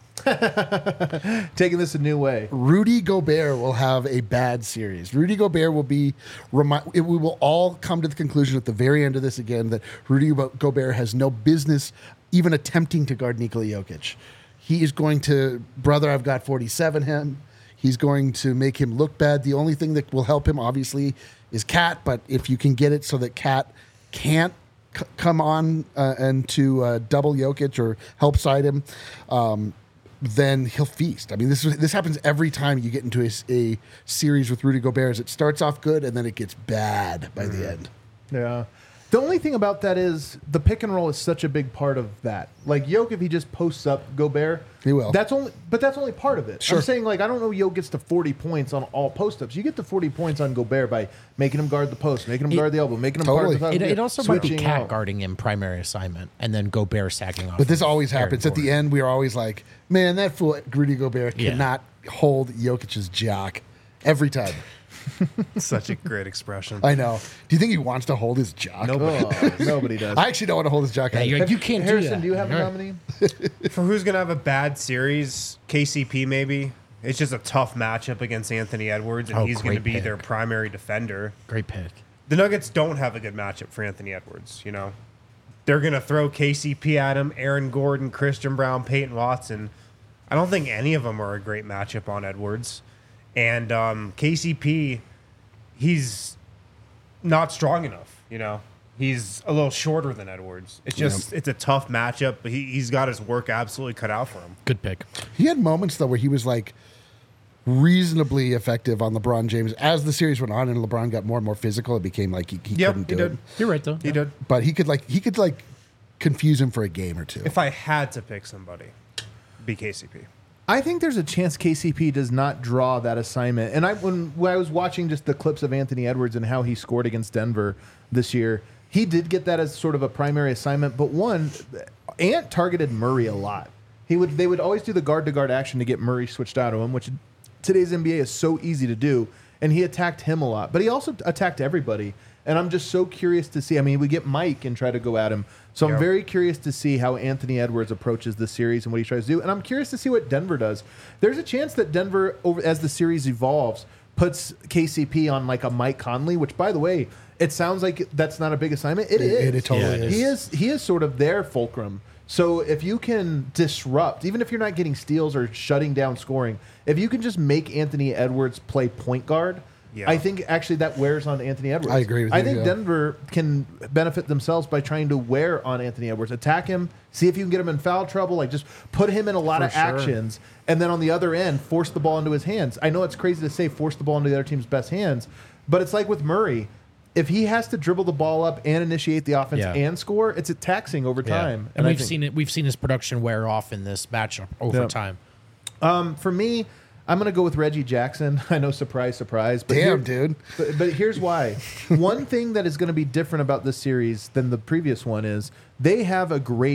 Taking this a new way. Rudy Gobert will have a bad series. Rudy Gobert will be, remi- it, we will all come to the conclusion at the very end of this again that Rudy Gobert has no business even attempting to guard Nikola Jokic. He is going to, brother, I've got forty-seven him. He's going to make him look bad. The only thing that will help him, obviously, is Cat. But if you can get it so that Cat can't c- come on uh, and to uh, double Jokic or help side him, um, then he'll feast. I mean, this is, this happens every time you get into a, a series with Rudy Gobert. Is it starts off good and then it gets bad by the end. Yeah. The only thing about that is the pick and roll is such a big part of that. Like Jokic, if he just posts up Gobert, He will. That's only, but that's only part of it. Sure. I'm saying like I don't know. Jokic gets to forty points on all post ups. You get to forty points on Gobert by making him guard the post, making him It- guard the elbow, making him Totally. guard It, the it also might be switching Cat out. guarding him primary assignment and then Gobert sacking off. But this of always Aaron happens. At the Gordon. end, we are always like, man, that fool Rudy Gobert Yeah. cannot hold Jokic's jock every time. Such a great expression. I know. Do you think he wants to hold his jock? Oh, nobody does. I actually don't want to hold his jock. Yeah, either. you're like, you can't Harrison, do that. do you have a Right. nominee? For who's going to have a bad series, K C P maybe. It's just a tough matchup against Anthony Edwards, and Oh, he's going to great be pick. their primary defender. Great pick. The Nuggets don't have a good matchup for Anthony Edwards, you know. They're going to throw K C P at him, Aaron Gordon, Christian Brown, Peyton Watson. I don't think any of them are a great matchup on Edwards. And um, K C P, he's not strong enough, you know. He's a little shorter than Edwards. It's just, it's a tough matchup, but he, he's got his work absolutely cut out for him. Good pick. He had moments though where he was like reasonably effective on LeBron James as the series went on, and LeBron got more and more physical. It became like he, he Yep, couldn't he do did. it. You're right though. He did. But he could like he could like confuse him for a game or two. If I had to pick somebody, it'd be K C P. I think there's a chance K C P does not draw that assignment. And I when, when I was watching just the clips of Anthony Edwards and how he scored against Denver this year, he did get that as sort of a primary assignment. But one, Ant targeted Murray a lot. He would they would always do the guard to guard action to get Murray switched out of him, which today's N B A is so easy to do. And he attacked him a lot, but he also attacked everybody. And I'm just so curious to see. I mean, we get Mike and try to go at him. So I'm Yep. very curious to see how Anthony Edwards approaches the series and what he tries to do. And I'm curious to see what Denver does. There's a chance that Denver, over as the series evolves, puts K C P on like a Mike Conley, which, by the way, it sounds like that's not a big assignment. It It- is. it- it totally Yeah, it He is. He is sort of their fulcrum. So if you can disrupt, even if you're not getting steals or shutting down scoring, if you can just make Anthony Edwards play point guard, Yeah. I think actually that wears on Anthony Edwards. I agree with I you, think yeah. Denver can benefit themselves by trying to wear on Anthony Edwards, attack him, see if you can get him in foul trouble, like just put him in a lot For of sure. actions, and then on the other end, force the ball into his hands. I know it's crazy to say force the ball into the other team's best hands, but it's like with Murray. If he has to dribble the ball up and initiate the offense Yeah. and score, it's a taxing over time. And, I we've think- seen it. We've seen his production wear off in this matchup over Yeah. time. Um, for me, I'm going to go with Reggie Jackson. I know, surprise, surprise. But Damn, dude. But, but here's why. One thing that is going to be different about this series than the previous one is they have a great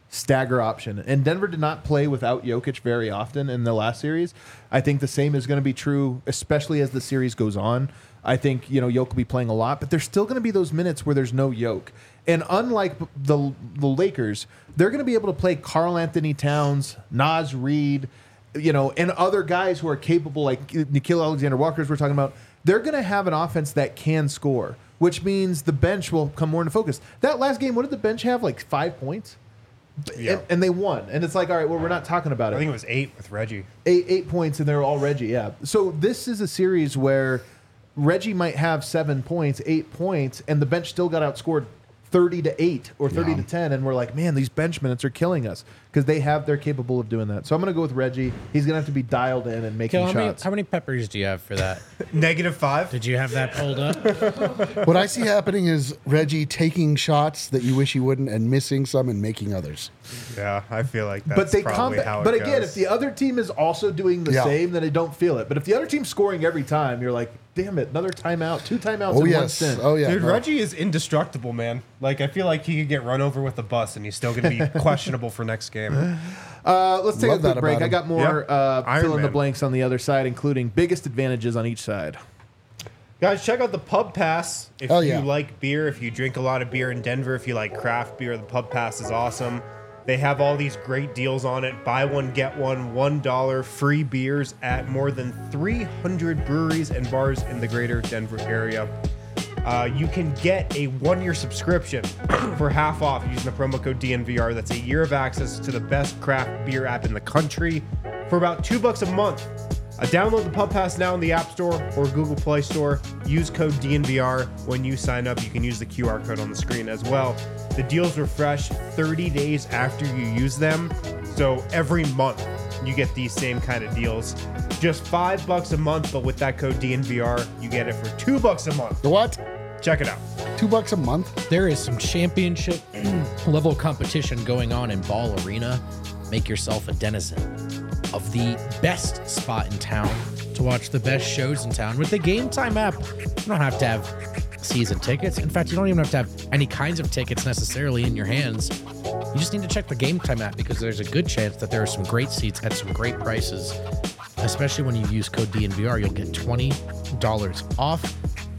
stagger option. And Denver did not play without Jokic very often in the last series. I think the same is going to be true, especially as the series goes on. I think, you know, Jokic will be playing a lot, but there's still going to be those minutes where there's no Jokic. And unlike the, the Lakers, they're going to be able to play Karl Anthony Towns, Naz Reid, you know, and other guys who are capable, like Nickeil Alexander-Walker, as we're talking about. They're going to have an offense that can score, which means the bench will come more into focus. That last game, what did the bench have? Like five points? Yeah. And, and they won. And it's like, all right, well, we're not talking about it. I think it was eight with Reggie. Eight, eight points, and they're all Reggie, yeah. So this is a series where Reggie might have seven points, eight points, and the bench still got outscored thirty to eight or thirty to ten, and we're like, man, these bench minutes are killing us because they have they're capable of doing that. So I'm going to go with Reggie. He's going to have to be dialed in and making Kel, how, many, shots. how many peppers do you have for that? Negative five. Did you have that pulled up? What I see happening is Reggie taking shots that you wish he wouldn't and missing some and making others. Yeah, I feel like that's but they probably combat, how it But again, goes. if the other team is also doing the Yeah. same, then I don't feel it. But if the other team's scoring every time, you're like, damn it, another timeout, two timeouts Oh in one yes. stint. Oh yeah. Dude, No. Reggie is indestructible, man. Like, I feel like he could get run over with a bus and he's still going to be questionable for next game. Uh, let's take Love a that quick break. about I him. got more Yeah. uh, Iron fill in the Man. blanks on the other side, including biggest advantages on each side. Guys, check out the Pub Pass. If Hell you yeah. like beer, if you drink a lot of beer in Denver, if you like craft beer, the Pub Pass is awesome. They have all these great deals on it. Buy one, get one, one dollar, free beers at more than three hundred breweries and bars in the greater Denver area. Uh, you can get a one-year subscription for half off using the promo code D N V R. That's a year of access to the best craft beer app in the country for about two bucks a month. Uh, download the Pub Pass now in the App Store or Google Play Store. Use code D N V R when you sign up. You can use the Q R code on the screen as well. The deals refresh thirty days after you use them. So every month you get these same kind of deals. Just five bucks a month, but with that code D N V R, you get it for two bucks a month. The what? Check it out. Two bucks a month? There is some championship level competition going on in Ball Arena. Make yourself a denizen of the best spot in town to watch the best shows in town. With the Game Time app, you don't have to have season tickets. In fact, you don't even have to have any kinds of tickets necessarily in your hands. You just need to check the Game Time app because there's a good chance that there are some great seats at some great prices. Especially when you use code D N V R, you'll get twenty dollars off.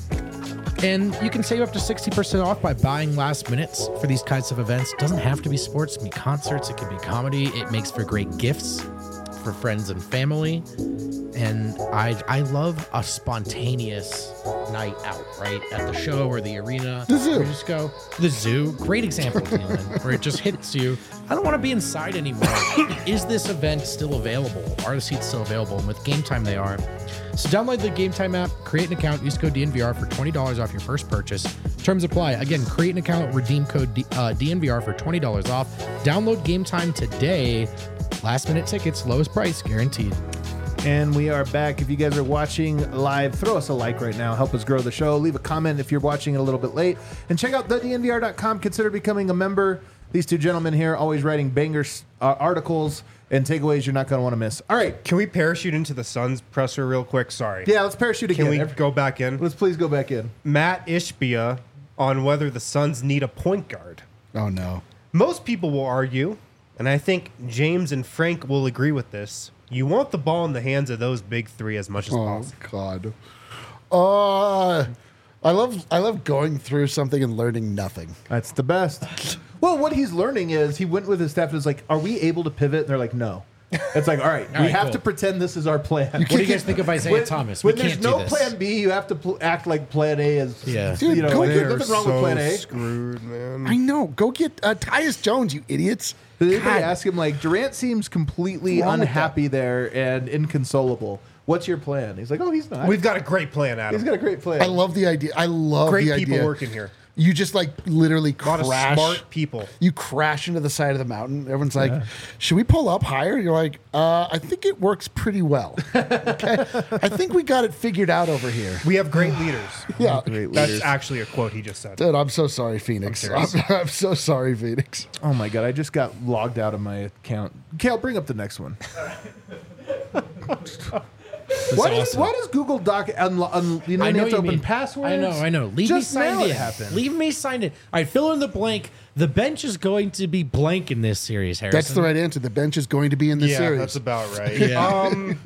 And you can save up to sixty percent off by buying last minutes for these kinds of events. It doesn't have to be sports, it can be concerts, it can be comedy. It makes for great gifts for friends and family. And I I love a spontaneous night out, right? At the show or the arena. The zoo. Where you just go. The zoo. Great example, Dylan, where it just hits you. I don't want to be inside anymore. Is this event still available? Are the seats still available? And with Game Time, they are. So download the Game Time app, create an account, use code D N V R for twenty dollars off your first purchase. Terms apply. Again, create an account, redeem code D- uh, D N V R for twenty dollars off. Download Game Time today. Last minute tickets, lowest price guaranteed. And we are back. If you guys are watching live, throw us a like right now. Help us grow the show. Leave a comment if you're watching it a little bit late. And check out the D N V R dot com. Consider becoming a member. These two gentlemen here always writing bangers, uh, articles, and takeaways you're not going to want to miss. All right. Can we parachute into the Suns presser real quick? Sorry. Yeah, let's parachute Can again. we Every- go back in? Let's please go back in. Matt Ishbia on whether the Suns need a point guard. Oh no. Most people will argue, and I think James and Frank will agree with this, you want the ball in the hands of those big three as much as Oh possible. God. Uh I love I love going through something and learning nothing. That's the best. Well, what he's learning is he went with his staff and was like, are we able to pivot? And they're like, no. It's like, all right, All we right, have cool. to pretend this is our plan. What do you guys think of Isaiah when, Thomas? When we there's can't no do this. plan B, you have to pl- act like plan A is. Yeah. Dude, you know, go like, get- there's nothing wrong with plan A. Screwed, man. I know. Go get uh, Tyus Jones, you idiots. Did anybody God. ask him, like, Durant seems completely What's wrong with unhappy there and inconsolable. What's your plan? He's like, oh, he's not. We've got a great plan, Adam. he's got a great plan. I love the idea. I love great the people idea. working here. You just like literally A lot crash. of smart people. You crash into the side of the mountain. Everyone's like, should we pull up higher? You're like, uh, I think it works pretty well. Okay. I think we got it figured out over here. We have great leaders. Yeah. Great That's leaders. actually a quote he just said. Dude, I'm so sorry, Phoenix. I'm I'm, serious. I'm so sorry, Phoenix. Oh, my God. I just got logged out of my account. Kale, bring up the next one. Why does, awesome. why does Google Doc unlo- un- you know, I you know have to you open mean. passwords? I know, I know. Leave Just me signed now in. it happened. Leave me signed in. All right, fill in the blank. The bench is going to be blank in this series, Harrison. That's the right answer. The bench is going to be in this yeah, series. that's about right. Yeah. Um,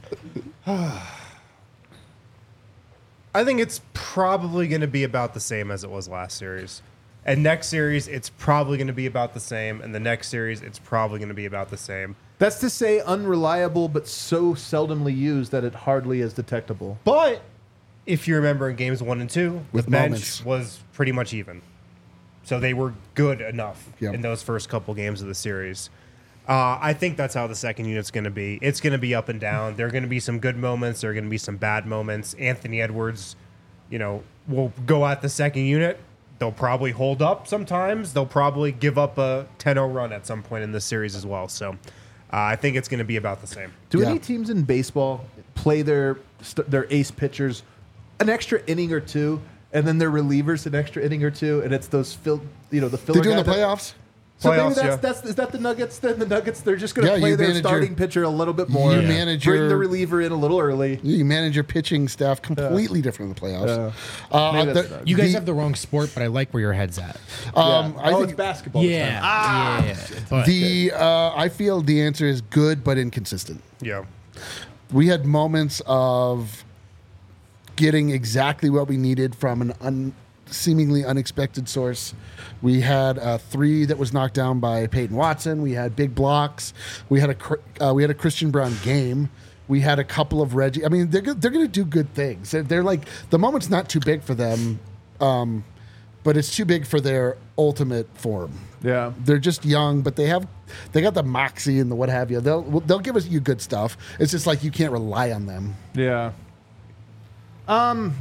I think it's probably going to be about the same as it was last series. And next series, it's probably going to be about the same. And the next series, it's probably going to be about the same. That's to say unreliable, but so seldomly used that it hardly is detectable. But if you remember in games one and two, With the bench moments. was pretty much even. So they were good enough Yep. in those first couple games of the series. Uh, I think that's how the second unit's going to be. It's going to be up and down. There are going to be some good moments. There are going to be some bad moments. Anthony Edwards, you know, will go at the second unit. They'll probably hold up sometimes. They'll probably give up a ten oh run at some point in this series as well. So uh, I think it's going to be about the same. Do Yeah. any teams in baseball play their st- their ace pitchers an extra inning or two, and then their relievers an extra inning or two, and it's those fill, you know, the filler They do in the guy that- playoffs? So maybe Playoffs, that's, yeah. that's is that the Nuggets? Then the Nuggets they're just going to Yeah, play you their manage your- starting pitcher a little bit more. You Yeah. manage Bring your the reliever in a little early. you manage your pitching staff completely different in the playoffs. Yeah. Uh, Maybe that's the- not- You guys the- have the wrong sport, but I like where your head's at. Um, Yeah. I oh, think it's basketball. this Yeah. time. yeah. But the uh, I feel the answer is good but inconsistent. Yeah. We had moments of getting exactly what we needed from an un, seemingly unexpected source. We had a three that was knocked down by Peyton Watson. We had big blocks. We had a Cr- uh, we had a Christian Brown game. We had a couple of Reggie. I mean, they're go- they're going to do good things. They're, they're like the moment's not too big for them, um, but it's too big for their ultimate form. Yeah. They're just young, but they have they got the moxie and the what have you. They'll they'll give us you good stuff. It's just like you can't rely on them. Yeah. Um,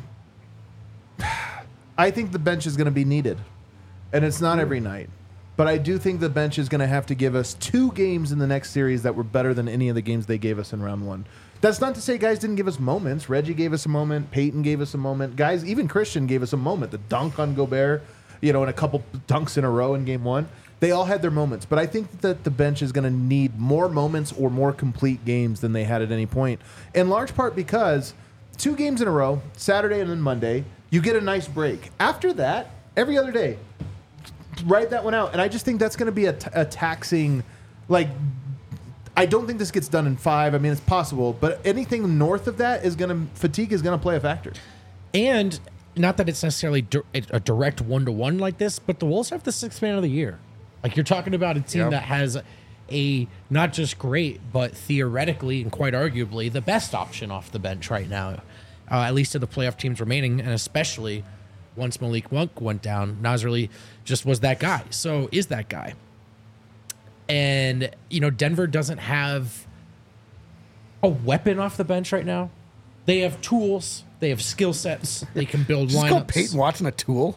I think the bench is going to be needed, and it's not every night. But I do think the bench is going to have to give us two games in the next series that were better than any of the games they gave us in round one. That's not to say guys didn't give us moments. Reggie gave us a moment. Peyton gave us a moment. Guys, even Christian gave us a moment. The dunk on Gobert, you know, and a couple dunks in a row in game one. They all had their moments. But I think that the bench is going to need more moments or more complete games than they had at any point. In large part because two games in a row, Saturday and then Monday, you get a nice break. After that, every other day, write that one out. And I just think that's going to be a, t- a taxing, like, I don't think this gets done in five. I mean, it's possible, but anything north of that is going to, fatigue is going to play a factor. and not that it's necessarily di- a direct one to one like this, but the Wolves have the sixth man of the year. Like you're talking about a team Yep. that has a not just great, but theoretically and quite arguably the best option off the bench right now, uh, at least of the playoff teams remaining, and especially once Malik Monk went down, Nasrali just was that guy. So is that guy. And, you know, Denver doesn't have a weapon off the bench right now. They have tools. They have skill sets. They can build Just call lineups. Peyton Watson a tool.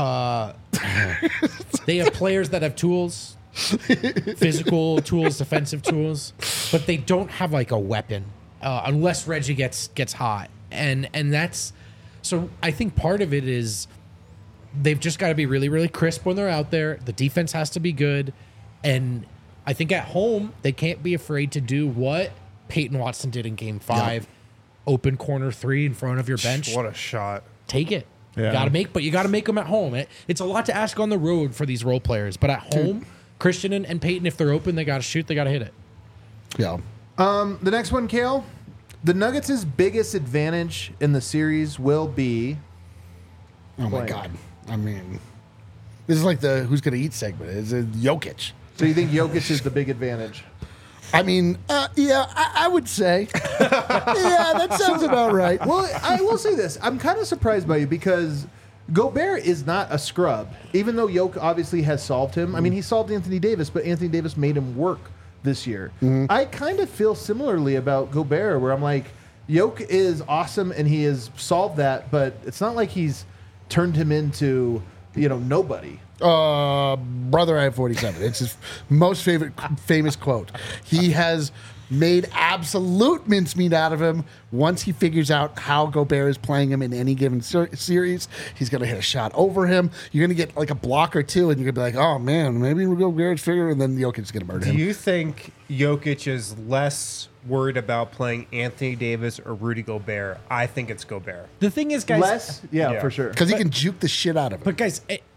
They have players that have tools, physical tools, defensive tools, but they don't have like a weapon uh, unless Reggie gets gets hot. And and that's so I think part of it is they've just got to be really really crisp when they're out there. The defense has to be good, and I think at home they can't be afraid to do what Peyton Watson did in Game Five, open corner three in front of your bench. What a shot. Take it. Yeah. You got to make, but you got to make them at home. It, it's a lot to ask on the road for these role players, but at home, Christian and, and Peyton, if they're open, they got to shoot, they got to hit it. Yeah. Um, the next one, Kale, the Nuggets' biggest advantage in the series will be Oh my Blank. God. I mean, this is like the who's going to eat segment. It's a Jokic. So you think Jokic is the big advantage? I mean, uh, yeah, I, I would say. yeah, that sounds about right. Well, I will say this. I'm kind of surprised by you because Gobert is not a scrub, even though Jokic obviously has solved him. I mean, he solved Anthony Davis, but Anthony Davis made him work this year. I kind of feel similarly about Gobert, where I'm like, Jokic is awesome and he has solved that, but it's not like he's turned him into, you know, nobody. Uh, brother, I have forty-seven. It's his most favorite famous quote. He has made absolute mincemeat out of him. Once he figures out how Gobert is playing him in any given ser- series, he's going to hit a shot over him. You're going to get like a block or two, and you're going to be like, oh, man, maybe Gobert's figure, and then Jokic's going to murder Do him. you think Jokic is less worried about playing Anthony Davis or Rudy Gobert? I think it's Gobert. The thing is, guys, Less? Yeah, Yeah. for sure. Because he can juke the shit out of him. but guys, eh,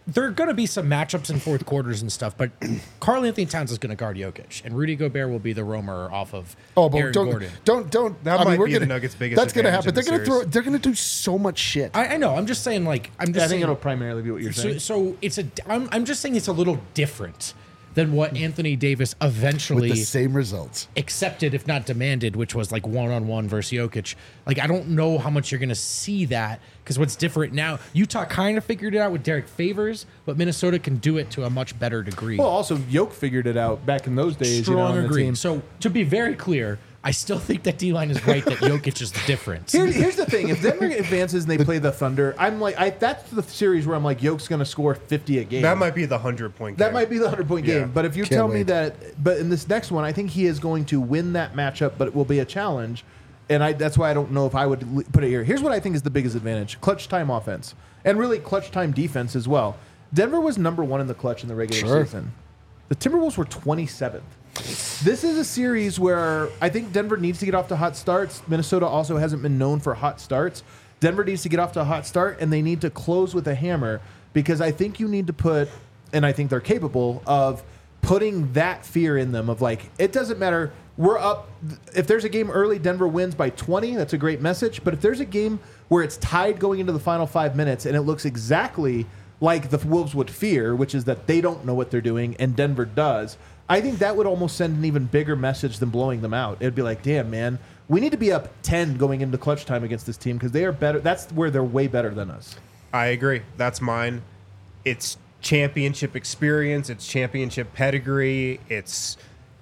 there are going to be some matchups in fourth quarters and stuff, but Karl Anthony Towns is going to guard Jokic, and Rudy Gobert will be the roamer off of Oh, but Aaron don't, Gordon. don't, don't. That I might mean, we're be gonna, the Nuggets' biggest That's going to advantage happen. in They're the going to throw. series. They're going to do so much shit. I, I know. I'm just saying, like, I'm just I think saying. it'll primarily be what you're So, saying. so it's a. I'm, I'm just saying it's a little different than what Anthony Davis with eventually the same results. accepted, if not demanded, which was like one on one versus Jokic. Like, I don't know how much you're going to see that because what's different now, Utah kind of figured it out with Derek Favors, but Minnesota can do it to a much better degree. Well, also Yoke figured it out back in those days. you know, Strong on the agree. team. So, to be very clear, I still think that D-line is right that Jokic is the difference. Here, here's the thing: if Denver advances and they play the Thunder, I'm like, I, that's the series where I'm like, Yoke's going to score fifty a game. That might be the hundred point. That game. might be the hundred point Yeah. game. But if you Can't tell me wait. that, but in this next one, I think he is going to win that matchup, but it will be a challenge, and I that's why I don't know if I would l- put it here. Here's what I think is the biggest advantage: clutch time offense, and really clutch time defense as well. Denver was number one in the clutch in the regular Sure. season. The Timberwolves were twenty-seventh. This is a series where I think Denver needs to get off to hot starts. Minnesota also hasn't been known for hot starts. Denver needs to get off to a hot start, and they need to close with a hammer because I think you need to put, and I think they're capable of putting that fear in them of like, it doesn't matter. We're up. If there's a game early, Denver wins by twenty. That's a great message. But if there's a game where it's tied going into the final five minutes and it looks exactly like the Wolves would fear, which is that they don't know what they're doing and Denver does, I think that would almost send an even bigger message than blowing them out. It'd be like, damn, man, we need to be up ten going into clutch time against this team because they are better. That's where they're way better than us. I agree. That's mine. It's championship experience. It's championship pedigree. It's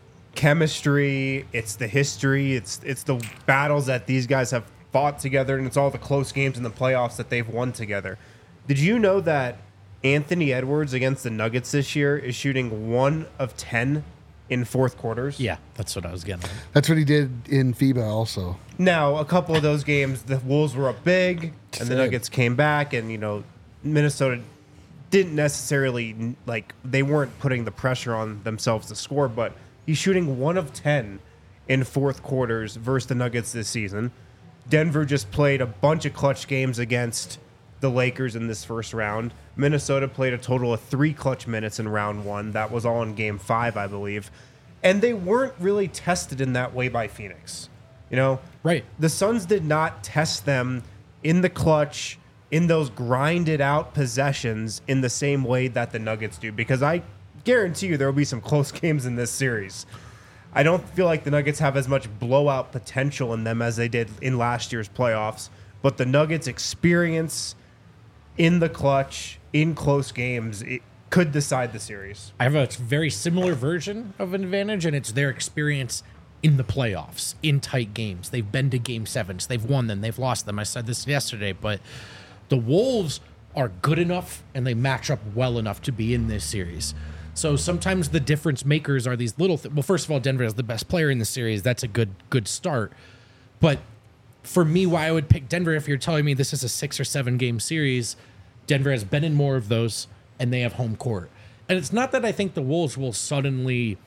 chemistry. It's the history. It's it's the battles that these guys have fought together, and it's all the close games in the playoffs that they've won together. Did you know that Anthony Edwards against the Nuggets this year is shooting one of ten in fourth quarters? Yeah, that's what I was getting at. That's what he did in FIBA also. Now, a couple of those games, the Wolves were up big, and the Same. Nuggets came back, and you know, Minnesota didn't necessarily like they weren't putting the pressure on themselves to score, but he's shooting one of ten in fourth quarters versus the Nuggets this season. Denver just played a bunch of clutch games against the Lakers in this first round. Minnesota played a total of three clutch minutes in round one. That was all in game five, I believe. And they weren't really tested in that way by Phoenix. You know, Right. the Suns did not test them in the clutch, in those grinded out possessions in the same way that the Nuggets do, because I guarantee you there will be some close games in this series. I don't feel like the Nuggets have as much blowout potential in them as they did in last year's playoffs, but the Nuggets' experience in the clutch, in close games, it could decide the series. I have a very similar version of an advantage, and it's their experience in the playoffs, in tight games. They've been to game sevens. They've won them. They've lost them. I said this yesterday, but the Wolves are good enough, and they match up well enough to be in this series. So sometimes the difference makers are these little th- well, first of all, Denver is the best player in the series. That's a good good start. But for me, why I would pick Denver, if you're telling me this is a six or seven game series, Denver has been in more of those, and they have home court. And it's not that I think the Wolves will suddenly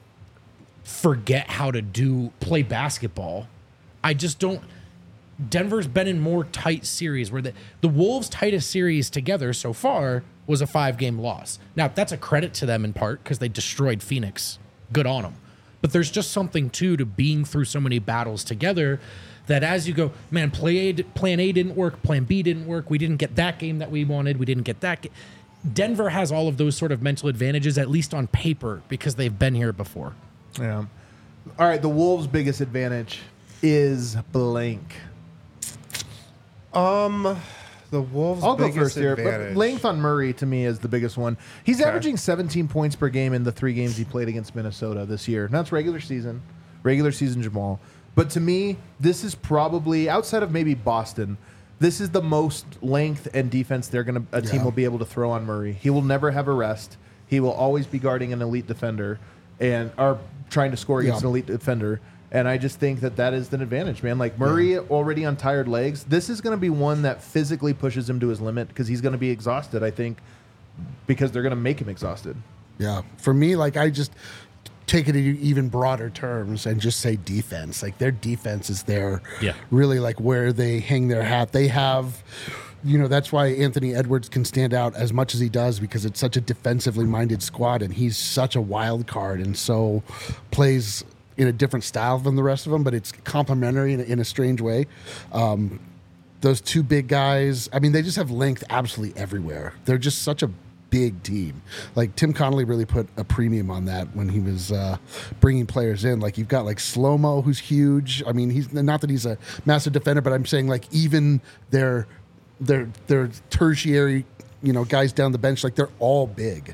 forget how to do play basketball. I just don't. Denver's been in more tight series where the, the Wolves' tightest series together so far was a five-game loss. Now, that's a credit to them in part because they destroyed Phoenix. Good on them. But there's just something, too, to being through so many battles together that as you go, man, play A, plan A didn't work, plan B didn't work, we didn't get that game that we wanted, we didn't get that game. Denver has all of those sort of mental advantages, at least on paper, because they've been here before. Yeah. All right. The Wolves' biggest advantage is blank. Um, the Wolves' I'll go biggest first here. But advantage. length on Murray to me is the biggest one. He's Okay. averaging seventeen points per game in the three games he played against Minnesota this year. And that's regular season, regular season Jamal. But to me, this is probably outside of maybe Boston. This is the most length and defense they're gonna a team Yeah. will be able to throw on Murray. He will never have a rest. He will always be guarding an elite defender and are trying to score against Yeah. an elite defender. And I just think that that is an advantage, man. Like Murray already on tired legs. This is going to be one that physically pushes him to his limit because he's going to be exhausted, I think, because they're going to make him exhausted. Yeah. For me, like I just take it in even broader terms and just say defense. Like their defense is there. Yeah. Really like where they hang their hat. They have you know, that's why Anthony Edwards can stand out as much as he does, because it's such a defensively minded squad, and he's such a wild card, and so plays in a different style than the rest of them, but it's complementary in a, in a strange way. Um, those two big guys, I mean, they just have length absolutely everywhere. They're just such a big team. Like Tim Connolly really put a premium on that when he was uh, bringing players in. Like you've got like Slow-Mo, who's huge. I mean, he's not that he's a massive defender, but I'm saying like even their their their tertiary, you know, guys down the bench, like they're all big.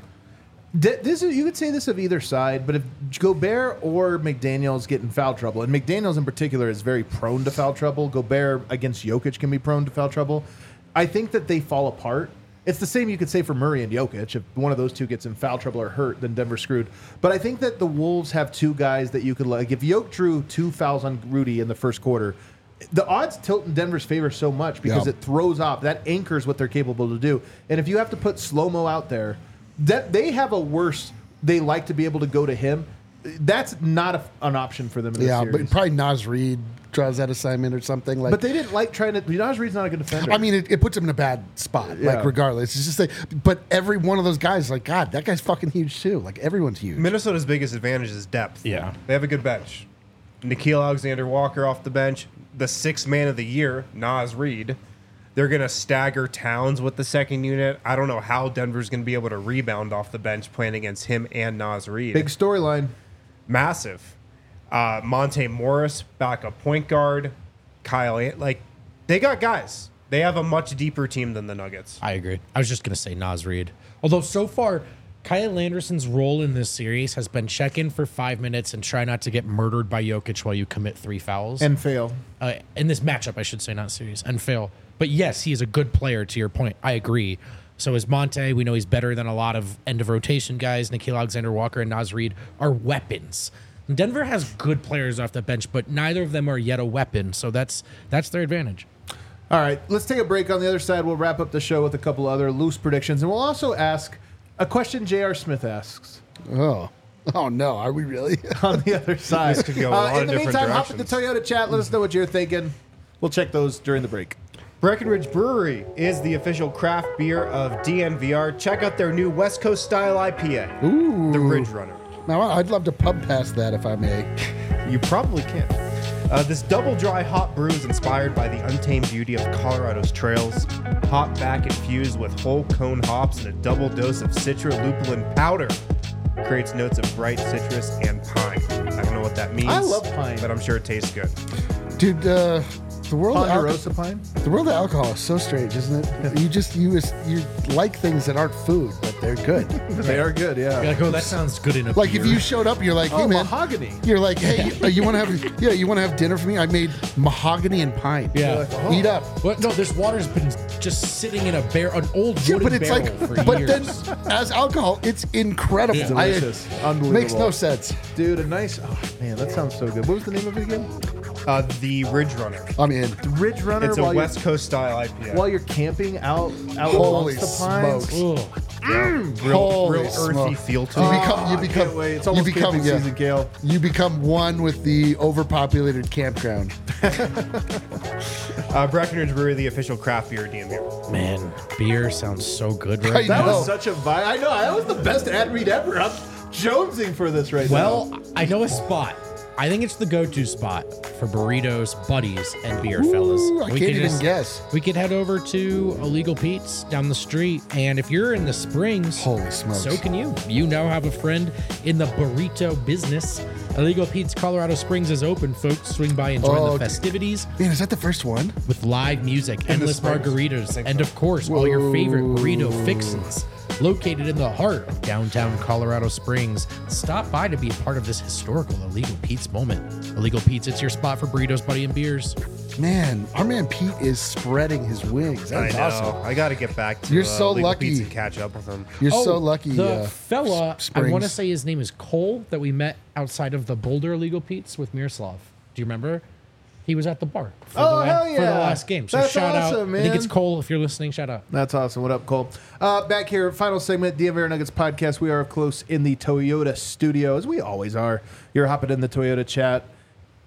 This is, you could say this of either side, but if Gobert or McDaniels get in foul trouble, and McDaniels in particular is very prone to foul trouble, Gobert against Jokic can be prone to foul trouble, I think that they fall apart. It's the same you could say for Murray and Jokic. If one of those two gets in foul trouble or hurt, then Denver's screwed. But I think that the Wolves have two guys that you could like. If Jokic drew two fouls on Rudy in the first quarter, the odds tilt in Denver's favor so much because Yeah. it throws off. That anchors what they're capable to do. And if you have to put Slow-Mo out there, that they have a worse. They like to be able to go to him. That's not a, an option for them in this Yeah, series. but probably Naz Reid draws that assignment or something. Like, But they didn't like trying to. Naz Reid's not a good defender. I mean, it, it puts him in a bad spot. Yeah. Like, regardless, it's just like. But every one of those guys, like, God, that guy's fucking huge too. Like, everyone's huge. Minnesota's biggest advantage is depth. Yeah. They have a good bench. Nikhil Alexander-Walker off the bench. The sixth man of the year, Naz Reid. They're going to stagger Towns with the second unit. I don't know how Denver's going to be able to rebound off the bench playing against him and Naz Reid. big storyline. Massive. Uh, Monte Morris, backup point guard. Kyle, An- like, they got guys. They have a much deeper team than the Nuggets. I agree. I was just going to say Naz Reid. Although so far, Kyle Anderson's role in this series has been check in for five minutes and try not to get murdered by Jokic while you commit three fouls. And fail. uh, in this matchup, I should say, not series, and fail. But yes, he is a good player, to your point. I agree. So is Monte. We know he's better than a lot of end of rotation guys. Nikhil Alexander-Walker and Naz Reid are weapons. Denver has good players off the bench, but neither of them are yet a weapon. So that's that's their advantage. All right, let's take a break. On the other side, we'll wrap up the show with a couple other loose predictions, and we'll also ask a question J R. Smith asks Oh. Oh, no. Are we really? on the other side. This could go a lot uh, in of the different meantime, hop in the directions. Toyota chat. Let us know what you're thinking. We'll check those during the break. Breckenridge Brewery is the official craft beer of D N V R. Check out their new West Coast style I P A, Ooh. the Ridge Runner. Now, I'd love to pub past that if I may. You probably can. Uh, this double dry hop brew is inspired by the untamed beauty of Colorado's trails. Hop back infused with whole cone hops and a double dose of Citra lupulin powder creates notes of bright citrus and pine. I don't know what that means. I love pine. but I'm sure it tastes good. Dude, uh, the world of alcohol, Ponderosa Pine? the world of alcohol is so strange, isn't it? You just you just, you like things that aren't food, but they're good. They are good, yeah. You're like, oh, that sounds good in a Like beer. if you showed up, you're like, hey Oh, man, mahogany. you're like, hey, you, you want to have yeah, you want to have dinner for me? I made mahogany and pine. Yeah. like, oh. Eat up. What? No, this water's been just sitting in a bear, an old Yeah, wooden but it's barrel like, for but years. then as alcohol, it's incredible. Yeah. I- Delicious. Unbelievable. Makes no sense. Dude, a nice. Oh, man, that sounds so good. What was the name of it again? Uh, the Ridge Runner. I'm in. Ridge Runner. It's a while West you're, Coast style I P A. while you're camping out, out Holy amongst the pines. smokes. Ugh. real, Holy real earthy smoke. feel to You it. become, you I become, can't wait. It's you almost become, camping yeah, season, Kale. you become one with the overpopulated campground. Uh, Breckenridge Brewery, the official craft beer of D N V R. Man, beer sounds so good I right That now. know. was such a vibe. I know. That was the best ad read ever. I'm jonesing for this right now. Well, I know a spot. I think it's the go-to spot for burritos, buddies, and beer, fellas. Ooh, I We can't could even guess. We could head over to Illegal Pete's down the street, and if you're in the Springs, Holy smokes. so can you. You now have a friend in the burrito business. Illegal Pete's Colorado Springs is open, folks. Swing by and join Oh, the festivities Man, is that the first one? with live music, endless Springs. margaritas, think and so. of course, all your favorite Whoa. burrito fixins. Located in the heart of downtown Colorado Springs, stop by to be a part of this historical Illegal Pete's moment. Illegal Pete's, it's your spot for burritos, buddy, and beers. Man, our man Pete is spreading his wings. I That's know. awesome. I got to get back to You're uh, so Legal lucky. Pete's and catch up with him. You're so Oh, lucky. The uh, fella, S- I want to Springs. say his name is Cole, that we met outside of the Boulder Illegal Pete's with Miroslav. Do you remember? He was at the bar for, Oh, the, la- hell for the yeah. last game. So That's shout awesome, out. I think it's man. Cole. If you're listening, shout out. That's awesome. What up, Cole? Uh, back here, final segment, D M V R Nuggets podcast. We are up close in the Toyota studio, as we always are. You're hopping in the Toyota chat.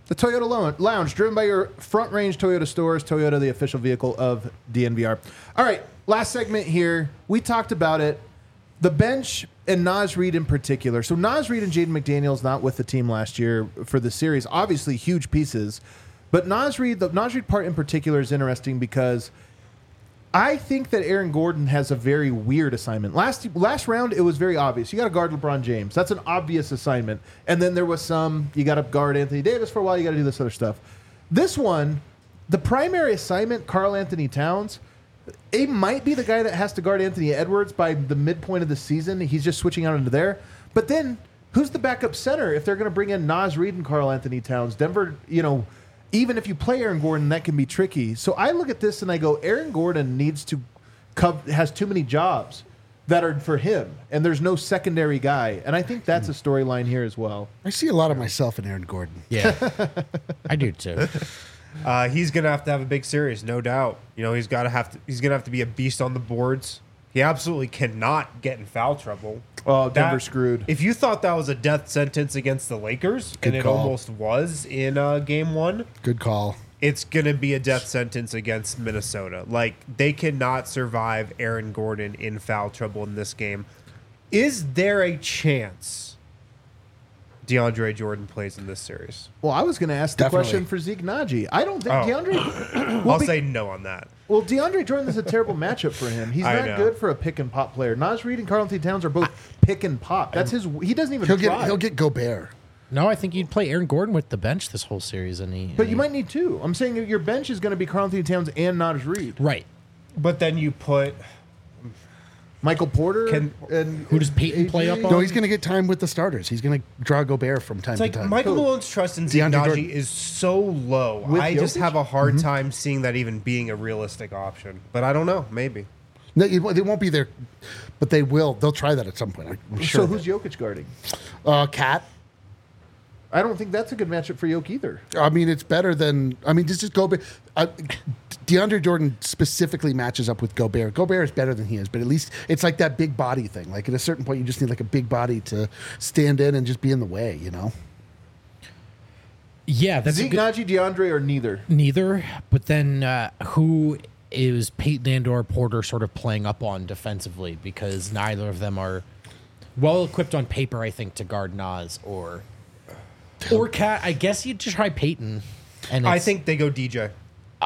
The Toyota Lo- Lounge, driven by your Front Range Toyota stores. Toyota, the official vehicle of D N V R. All right, last segment here. We talked about it. The bench and Naz Reid in particular. So Naz Reid and Jaden McDaniels not with the team last year for the series. Obviously, huge pieces. But Naz Reid, the Naz Reid part in particular is interesting because I think that Aaron Gordon has a very weird assignment. Last last round, it was very obvious. You got to guard LeBron James. That's an obvious assignment. And then there was some, you got to guard Anthony Davis for a while. You got to do this other stuff. This one, the primary assignment, Karl Anthony Towns, it might be the guy that has to guard Anthony Edwards by the midpoint of the season. He's just switching out into there. But then, who's the backup center if they're going to bring in Naz Reid and Karl Anthony Towns? Denver, you know, even if you play Aaron Gordon, that can be tricky. So I look at this and I go, Aaron Gordon needs to co- has too many jobs that are for him, and there's no secondary guy. And I think that's a storyline here as well. I see a lot of myself in Aaron Gordon. Yeah, I do too. Uh, he's gonna have to have a big series, no doubt. You know, he's got to have to. He's gonna have to be a beast on the boards. He absolutely cannot get in foul trouble. Oh, Denver That- screwed. If you thought that was a death sentence against the Lakers, Good and it call. almost was in uh, game one, Good call. it's gonna be a death sentence against Minnesota. Like, they cannot survive Aaron Gordon in foul trouble in this game. Is there a chance DeAndre Jordan plays in this series? Well, I was going to ask the Definitely. question for Zeke Naji. I don't think Oh. DeAndre. well, I'll be- say no on that. well, DeAndre Jordan is a terrible matchup for him. He's I not know. good for a pick and pop player. Naz Reid and Karl Anthony Towns are both pick and pop. That's his. He doesn't even He'll try. get he'll get Gobert. No, I think you'd play Aaron Gordon with the bench this whole series, and he. But and you he- might need two. I'm saying your bench is going to be Karl Anthony Towns and Naz Reid. right. But then you put Michael Porter Can- and Who does Peyton play up on? No, he's going to get time with the starters. He's going to draw Gobert from time It's to like time. Michael Who? Malone's trust in Zeke DeAndre Jordan. Naji is so low. With I just Jokic? have a hard time seeing that even being a realistic option. But I don't know. Maybe. No, it won't- they won't be there, but they will. They'll try that at some point. I'm sure. So of who's it. Jokic guarding? uh, Cat? I don't think that's a good matchup for Jokic either. I mean, it's better than. I mean, just just Gobert. Uh, DeAndre Jordan specifically matches up with Gobert. Gobert is better than he is, but at least it's like that big body thing. Like at a certain point, you just need like a big body to stand in and just be in the way. You know. Yeah, that's a Zeke good, Naji, DeAndre, or neither? neither. But then uh, who is Peyton and/or Porter sort of playing up on defensively? Because neither of them are well equipped on paper, I think, to guard Nas or or Cat. I guess you'd just try Peyton. And I it's- think they go D J.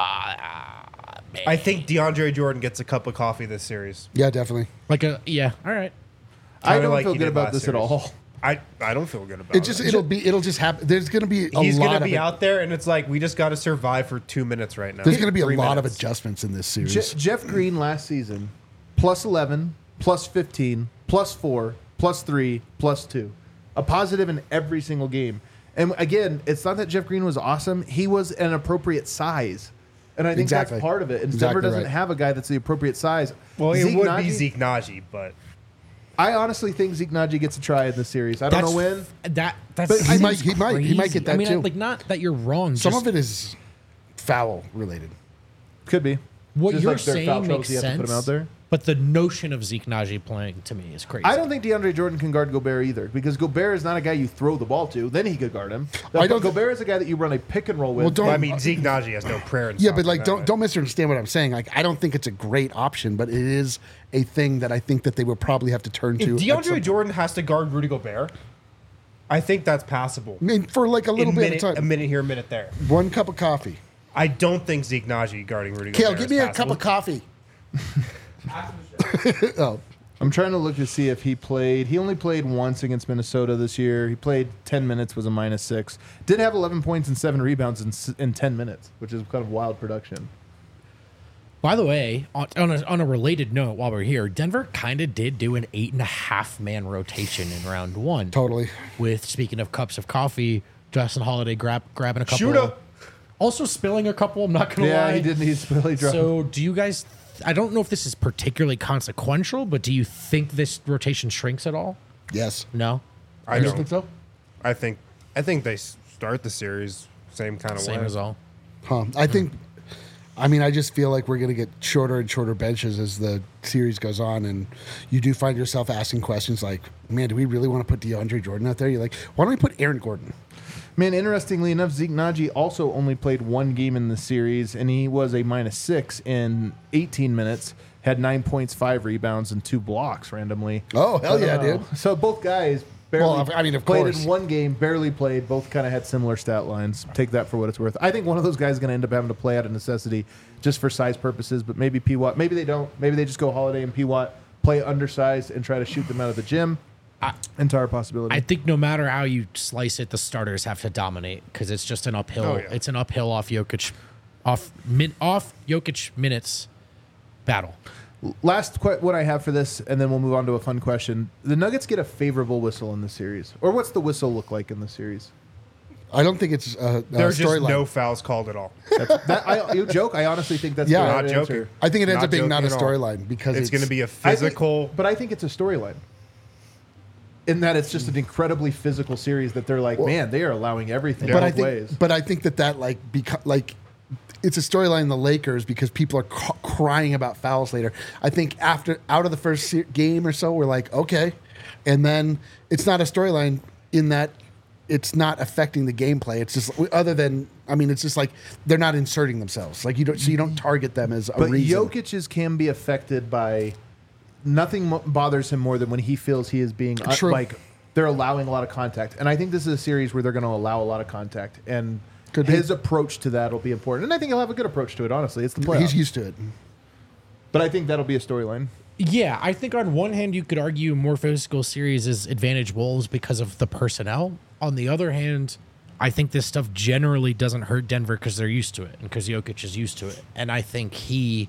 I think DeAndre Jordan gets a cup of coffee this series. Yeah, definitely. like a yeah. All right. I Kinda don't like feel he good did about last this at series. all. I, I don't feel good about It just it. it'll be it'll just happen. There's going to be a He's lot gonna of be it- out there, and it's like we just got to survive for two minutes right now. There's going to be a Three lot of minutes. adjustments in this series. Je- Jeff Green last season, plus eleven, plus fifteen, plus four, plus three, plus two. A positive in every single game. And again, it's not that Jeff Green was awesome. He was an appropriate size. And I think Exactly. that's part of it. And Exactly Denver doesn't right. have a guy that's the appropriate size. Well, it Zeke would Naji- be Zeke Naji, but I honestly think Zeke Naji gets a try in this series. I don't know when. That that's But he might- seems he might- he might crazy. get that I mean, too. like not that you're wrong. Some just of it is foul related. Could be. what Just you're like their foul saying troubles, makes you have to sense. put him out there. But the notion of Zeke Naji playing to me is crazy. I don't think DeAndre Jordan can guard Gobert either because Gobert is not a guy you throw the ball to. Then he could guard him. I don't- Gobert is a guy that you run a pick and roll with. Well, don't- I mean Zeke Naji has no prayer. In Yeah, soccer but like that don't way. don't misunderstand what I'm saying. Like I don't think it's a great option, but it is a thing that I think that they would probably have to turn If to. at some DeAndre point. Jordan has to guard Rudy Gobert, I think that's passable. I mean, for like a little a bit minute, of a time, minute here, a minute there. one cup of coffee. I don't think Zeke Naji guarding Rudy Kale, Gobert give is me a passable. cup of coffee. Oh, I'm trying to look to see if he played. He only played once against Minnesota this year. He played ten minutes, was a minus six. Did have eleven points and seven rebounds in, s- in ten minutes, which is kind of wild production. By the way, on, on, a, on a related note, while we're here, Denver kind of did do an eight and a half man rotation in round one. totally. With speaking of cups of coffee, Justin Holiday grab, grabbing a couple. Shooter. Also spilling a couple. I'm not gonna Yeah, lie. he didn't. He's really drunk. So, do you guys? I don't know if this is particularly consequential, but do you think this rotation shrinks at all? Yes. No. I You don't think so? I think I think they s- start the series same kind of Same way. as all. Huh. I think I mean, I just feel like we're going to get shorter and shorter benches as the series goes on, and you do find yourself asking questions like, "Man, do we really want to put DeAndre Jordan out there?" You're like, "Why don't we put Aaron Gordon?" Man, interestingly enough, Zeke Naji also only played one game in the series, and he was a minus six in eighteen minutes. Had nine points, five rebounds, and two blocks randomly. Oh, hell yeah, Uh, dude. So both guys barely Well, I mean, of played course. in one game, barely played. Both kind of had similar stat lines. Take that for what it's worth. I think one of those guys is going to end up having to play out of necessity just for size purposes, but maybe P. Watt. Maybe they don't. Maybe they just go Holiday and P. Watt, play undersized, and try to shoot them out of the gym. I- Entire possibility. I think no matter how you slice it, the starters have to dominate because it's just an uphill. Oh, yeah. It's an uphill off Jokic, off min, off Jokic minutes battle. Last que- what I have for this, and then we'll move on to a fun question. The Nuggets get a favorable whistle in the series, or what's the whistle look like in the series? I don't think it's a, a There's just storyline. no fouls called at all. That's, that, I, you joke. I honestly think that's Yeah. the Not right joking. answer. I think it ends Not up being not a joking at all. storyline because It's, going to be a I think- physical. but I think it's a storyline. In that it's just an incredibly physical series that they're like, man, they are allowing everything but both I think, ways. but I think that that like beca- like it's a storyline in the Lakers because people are ca- crying about fouls later. I think after out of the first se- game or so, we're like, okay, and then it's not a storyline in that it's not affecting the gameplay. It's just other than I mean, it's just like they're not inserting themselves. Like you don't, so you don't target them as a But reason. Jokic's can be affected by nothing mo- bothers him more than when he feels he is being uh, True. like they're allowing a lot of contact. And I think this is a series where they're going to allow a lot of contact, and Could be. his approach to that will be important. And I think he'll have a good approach to it. Honestly, it's the playoffs. He's used to it. But I think that'll be a storyline. Yeah, I think on one hand you could argue more physical series is advantage Wolves because of the personnel. On the other hand, I think this stuff generally doesn't hurt Denver because they're used to it and because Jokic is used to it. And I think he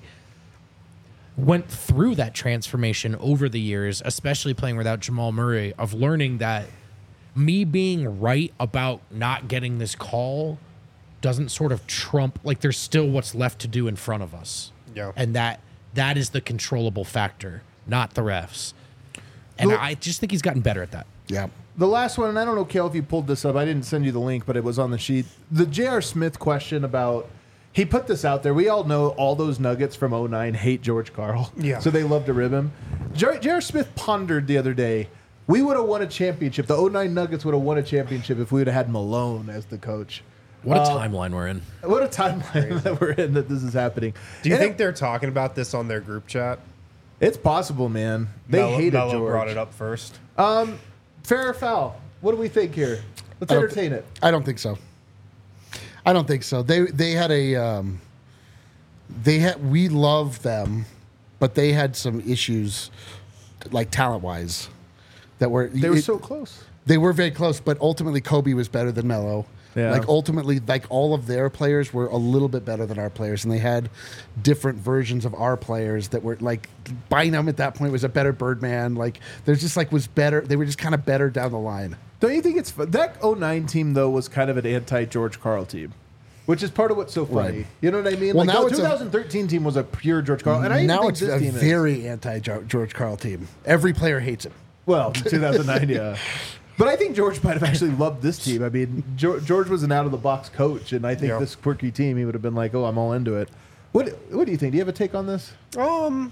went through that transformation over the years, especially playing without Jamal Murray, of learning that me being right about not getting this call doesn't sort of trump, like there's still what's left to do in front of us. Yeah. And that that is the controllable factor, not the refs. And Look- I just think he's gotten better at that. Yeah. The last one, and I don't know, Kale, if you pulled this up. I didn't send you the link, but it was on the sheet. The J R. Smith question about, he put this out there. We all know all those Nuggets from oh nine hate George Karl. Yeah. So they love to rib him. J R. Smith pondered the other day, we would have won a championship. The oh nine Nuggets would have won a championship if we would have had Malone as the coach. What a Uh, timeline we're in. What a timeline that we're in that this is happening. Do you And think they're talking about this on their group chat? it's possible, man? They Melo, hated Melo George. brought it up first. Fair or foul? What do we think here? Let's I don't entertain it. I don't think so. I don't think so. They they had a um, they had we love them, but they had some issues, like talent wise, that were They were it- so close. they were very close. But ultimately, Kobe was better than Melo. Yeah. Like ultimately, like all of their players were a little bit better than our players, and they had different versions of our players that were like Bynum at that point was a better Birdman. Like there's just like was better. They were just kind of better down the line. Don't you think it's fun? That oh nine team though was kind of an anti-George Karl team, which is part of what's so funny. Right. You know what I mean? Well, like now the it's a- twenty thirteen team was a pure George Karl, and I even now think it's this a team is. very anti George Karl team. Every player hates him. Well, two thousand nine, yeah. But I think George might have actually loved this team. I mean, George, George was an out-of-the-box coach, and I think Yeah. this quirky team, he would have been like, "Oh, I'm all into it." What What do you think? Do you have a take on this? Um,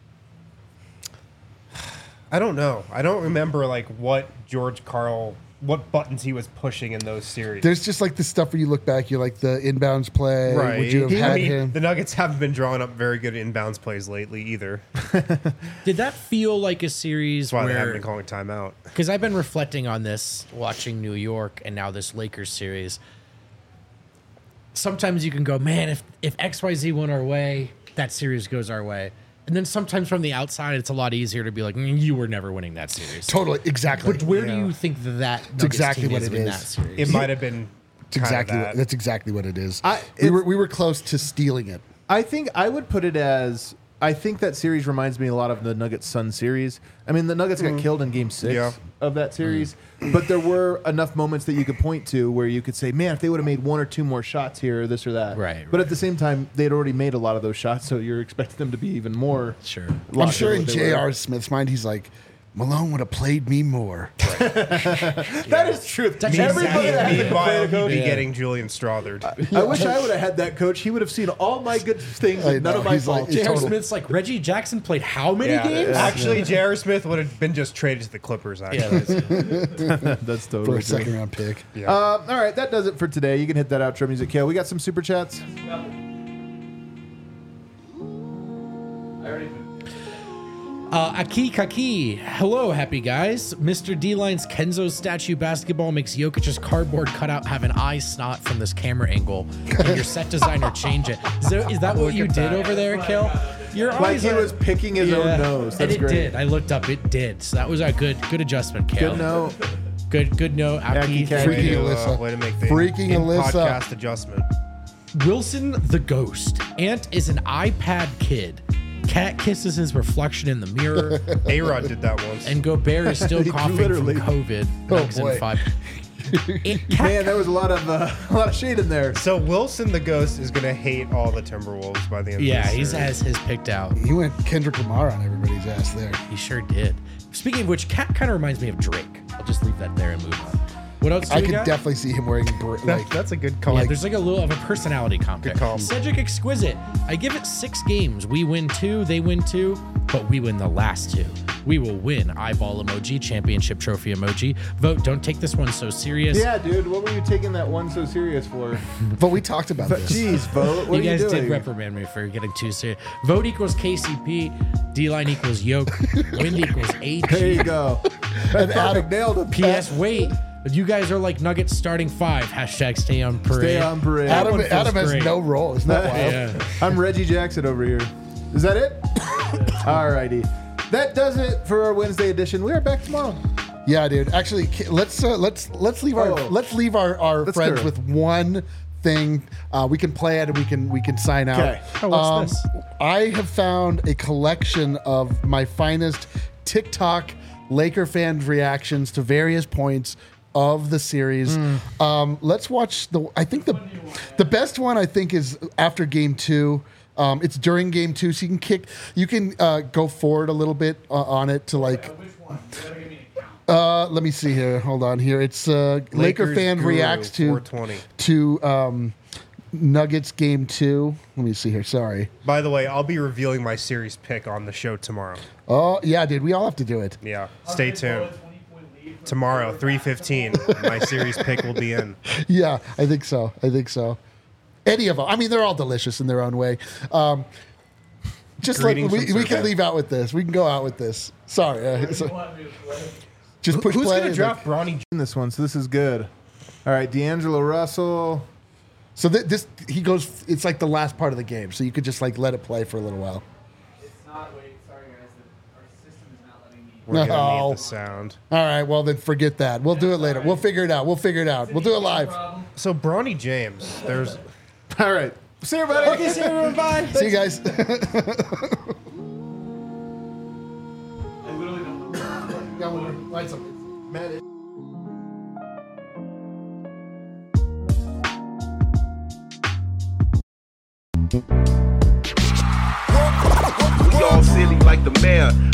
I don't know. I don't remember like what George Karl, what buttons he was pushing in those series. There's just like the stuff where you look back, you're like the inbounds play. right. Would you have He- had I mean, him? the Nuggets haven't been drawing up very good inbounds plays lately either. Did that feel like a series That's why they haven't where been calling timeout. because I've been reflecting on this, watching New York and now this Lakers series. Sometimes you can go, man, if if X Y Z went our way, that series goes our way. And then sometimes from the outside, it's a lot easier to be like, mm, you were never winning that series. Totally, exactly. But where Yeah. do you think that that Nuggets exactly team what is it in is. that series? It might have been That's exactly kinda what, that. that's exactly what it is. I- we it's- were we were close to stealing it. I think I would put it as I think that series reminds me a lot of the Nuggets Sun series. I mean, the Nuggets got killed in Game Six Yeah. of that series, but there were enough moments that you could point to where you could say, "Man, if they would have made one or two more shots here, or this or that." Right, But at the same time, they had already made a lot of those shots, so you're expecting them to be even more. Sure. I'm locked sure in in what they J were. R. Smith's mind, he's like, Malone would have played me more. That is true. That's Everybody exactly- that hasn't Meanwhile, played a he'd coach. be Yeah. getting Julian Strothered. I wish I would have had that coach. He would have seen all my good things I and none know, of my he's like- faults. It's J R. total- Smith's like, Reggie Jackson played how many games? Actually, J R. Smith would have been just traded to the Clippers. Actually. Yeah, that's- That's For totally a true. second round pick. Yeah. Um, all right, that does it for today. You can hit that outro music, Kale. We got some super chats. I already Uh, Aki Kaki, hello, happy guys. Mister D-Line's Kenzo statue basketball makes Jokic's cardboard cutout have an eye snot from this camera angle. Can your set designer change it? Is, there, is that what you at did that. over there, Kel? Your Like eyes he are- was picking his own nose. That's and it great. did. I looked up. It did. So that was a good, good adjustment, Kel. Good note. Good, good note. Aki, Aki thank Kaki. way, you. to, uh, Alyssa. way to make the Freaking in Alyssa. podcast adjustment. Wilson the Ghost. Ant is an iPad kid. Cat kisses his reflection in the mirror. A-Rod did that once. And Gobert is still coughing Literally. from COVID. Oh, Nugs in boy. five. It- Cat- Man, there was a lot of uh, a lot of shade in there. So Wilson the Ghost is going to hate all the Timberwolves by the end yeah, of this he series. has his picked out. He went Kendrick Lamar on everybody's ass there. He sure did. Speaking of which, Cat kind of reminds me of Drake. I'll just leave that there and move on. What else do I we could got? definitely see him wearing br- That- like that's a good call. Yeah, there's like a little of a personality comp. Good call. Cedric Exquisite. I give it six games. We win two, they win two, but we win the last two. We will win. Eyeball emoji, championship trophy emoji. Vote, don't take this one so serious. Yeah, dude, what were you taking that one so serious for? But we talked about this. Jeez, vote. What you are guys you doing? did reprimand me for getting too serious. Vote equals K C P. D-line equals yoke. Wind equals A G. There you go. And Perfect, Adam, nailed it. P S. Wait. You guys are like Nuggets starting five. Hashtag stay on parade. Stay on parade. That Adam, one feels Adam has great. no role. Isn't that wild? Yeah. I'm Reggie Jackson over here. Is that it? Alrighty. That does it for our Wednesday edition. We are back tomorrow. Yeah, dude. Actually, ki- let's uh, let's let's leave our Oh. let's leave our, our Let's friends go. with one thing. Uh, we can play it and we can we can sign out. Okay. Oh, what's this? I have found a collection of my finest TikTok Laker fans' reactions to various points of the series. Um, let's watch the. I think the the best one I think is after game two. Um, it's during game two, so you can kick. You can uh, go forward a little bit uh, on it to like. Which one? You gotta give me an account. Uh, let me see here. Hold on here. It's uh, Laker Lakers fan Guru, reacts to four twenty. to um, Nuggets game two. Let me see here. Sorry. By the way, I'll be revealing my series pick on the show tomorrow. Oh yeah, dude. We all have to do it. Yeah, stay They blow tuned. a twenty-point lead from Tomorrow, the three fifteen, my series pick will be in. Yeah, I think so. I think so. Any of them. I mean, they're all delicious in their own way. Um, just like Greetings we, from we can Serbia. leave out with this. We can go out with this. Sorry. Uh, You so want me to play? just push Who's play. going to and, draft like- Bronny? In this one, so this is good. All right, D'Angelo Russell. so th- this he goes. It's like the last part of the game, so you could just like let it play for a little while. It's not. Wait, sorry guys. The, our system is not letting me. We're going to No. need the sound. All right. Well, then forget that. We'll do it later. We'll figure it out. We'll figure it out. We'll do it live. Problem. So Bronny James, there's All right. See you, everybody. Okay, see everyone. Bye. See you guys. I literally don't know. Light something. Man, it- We all silly like the mayor.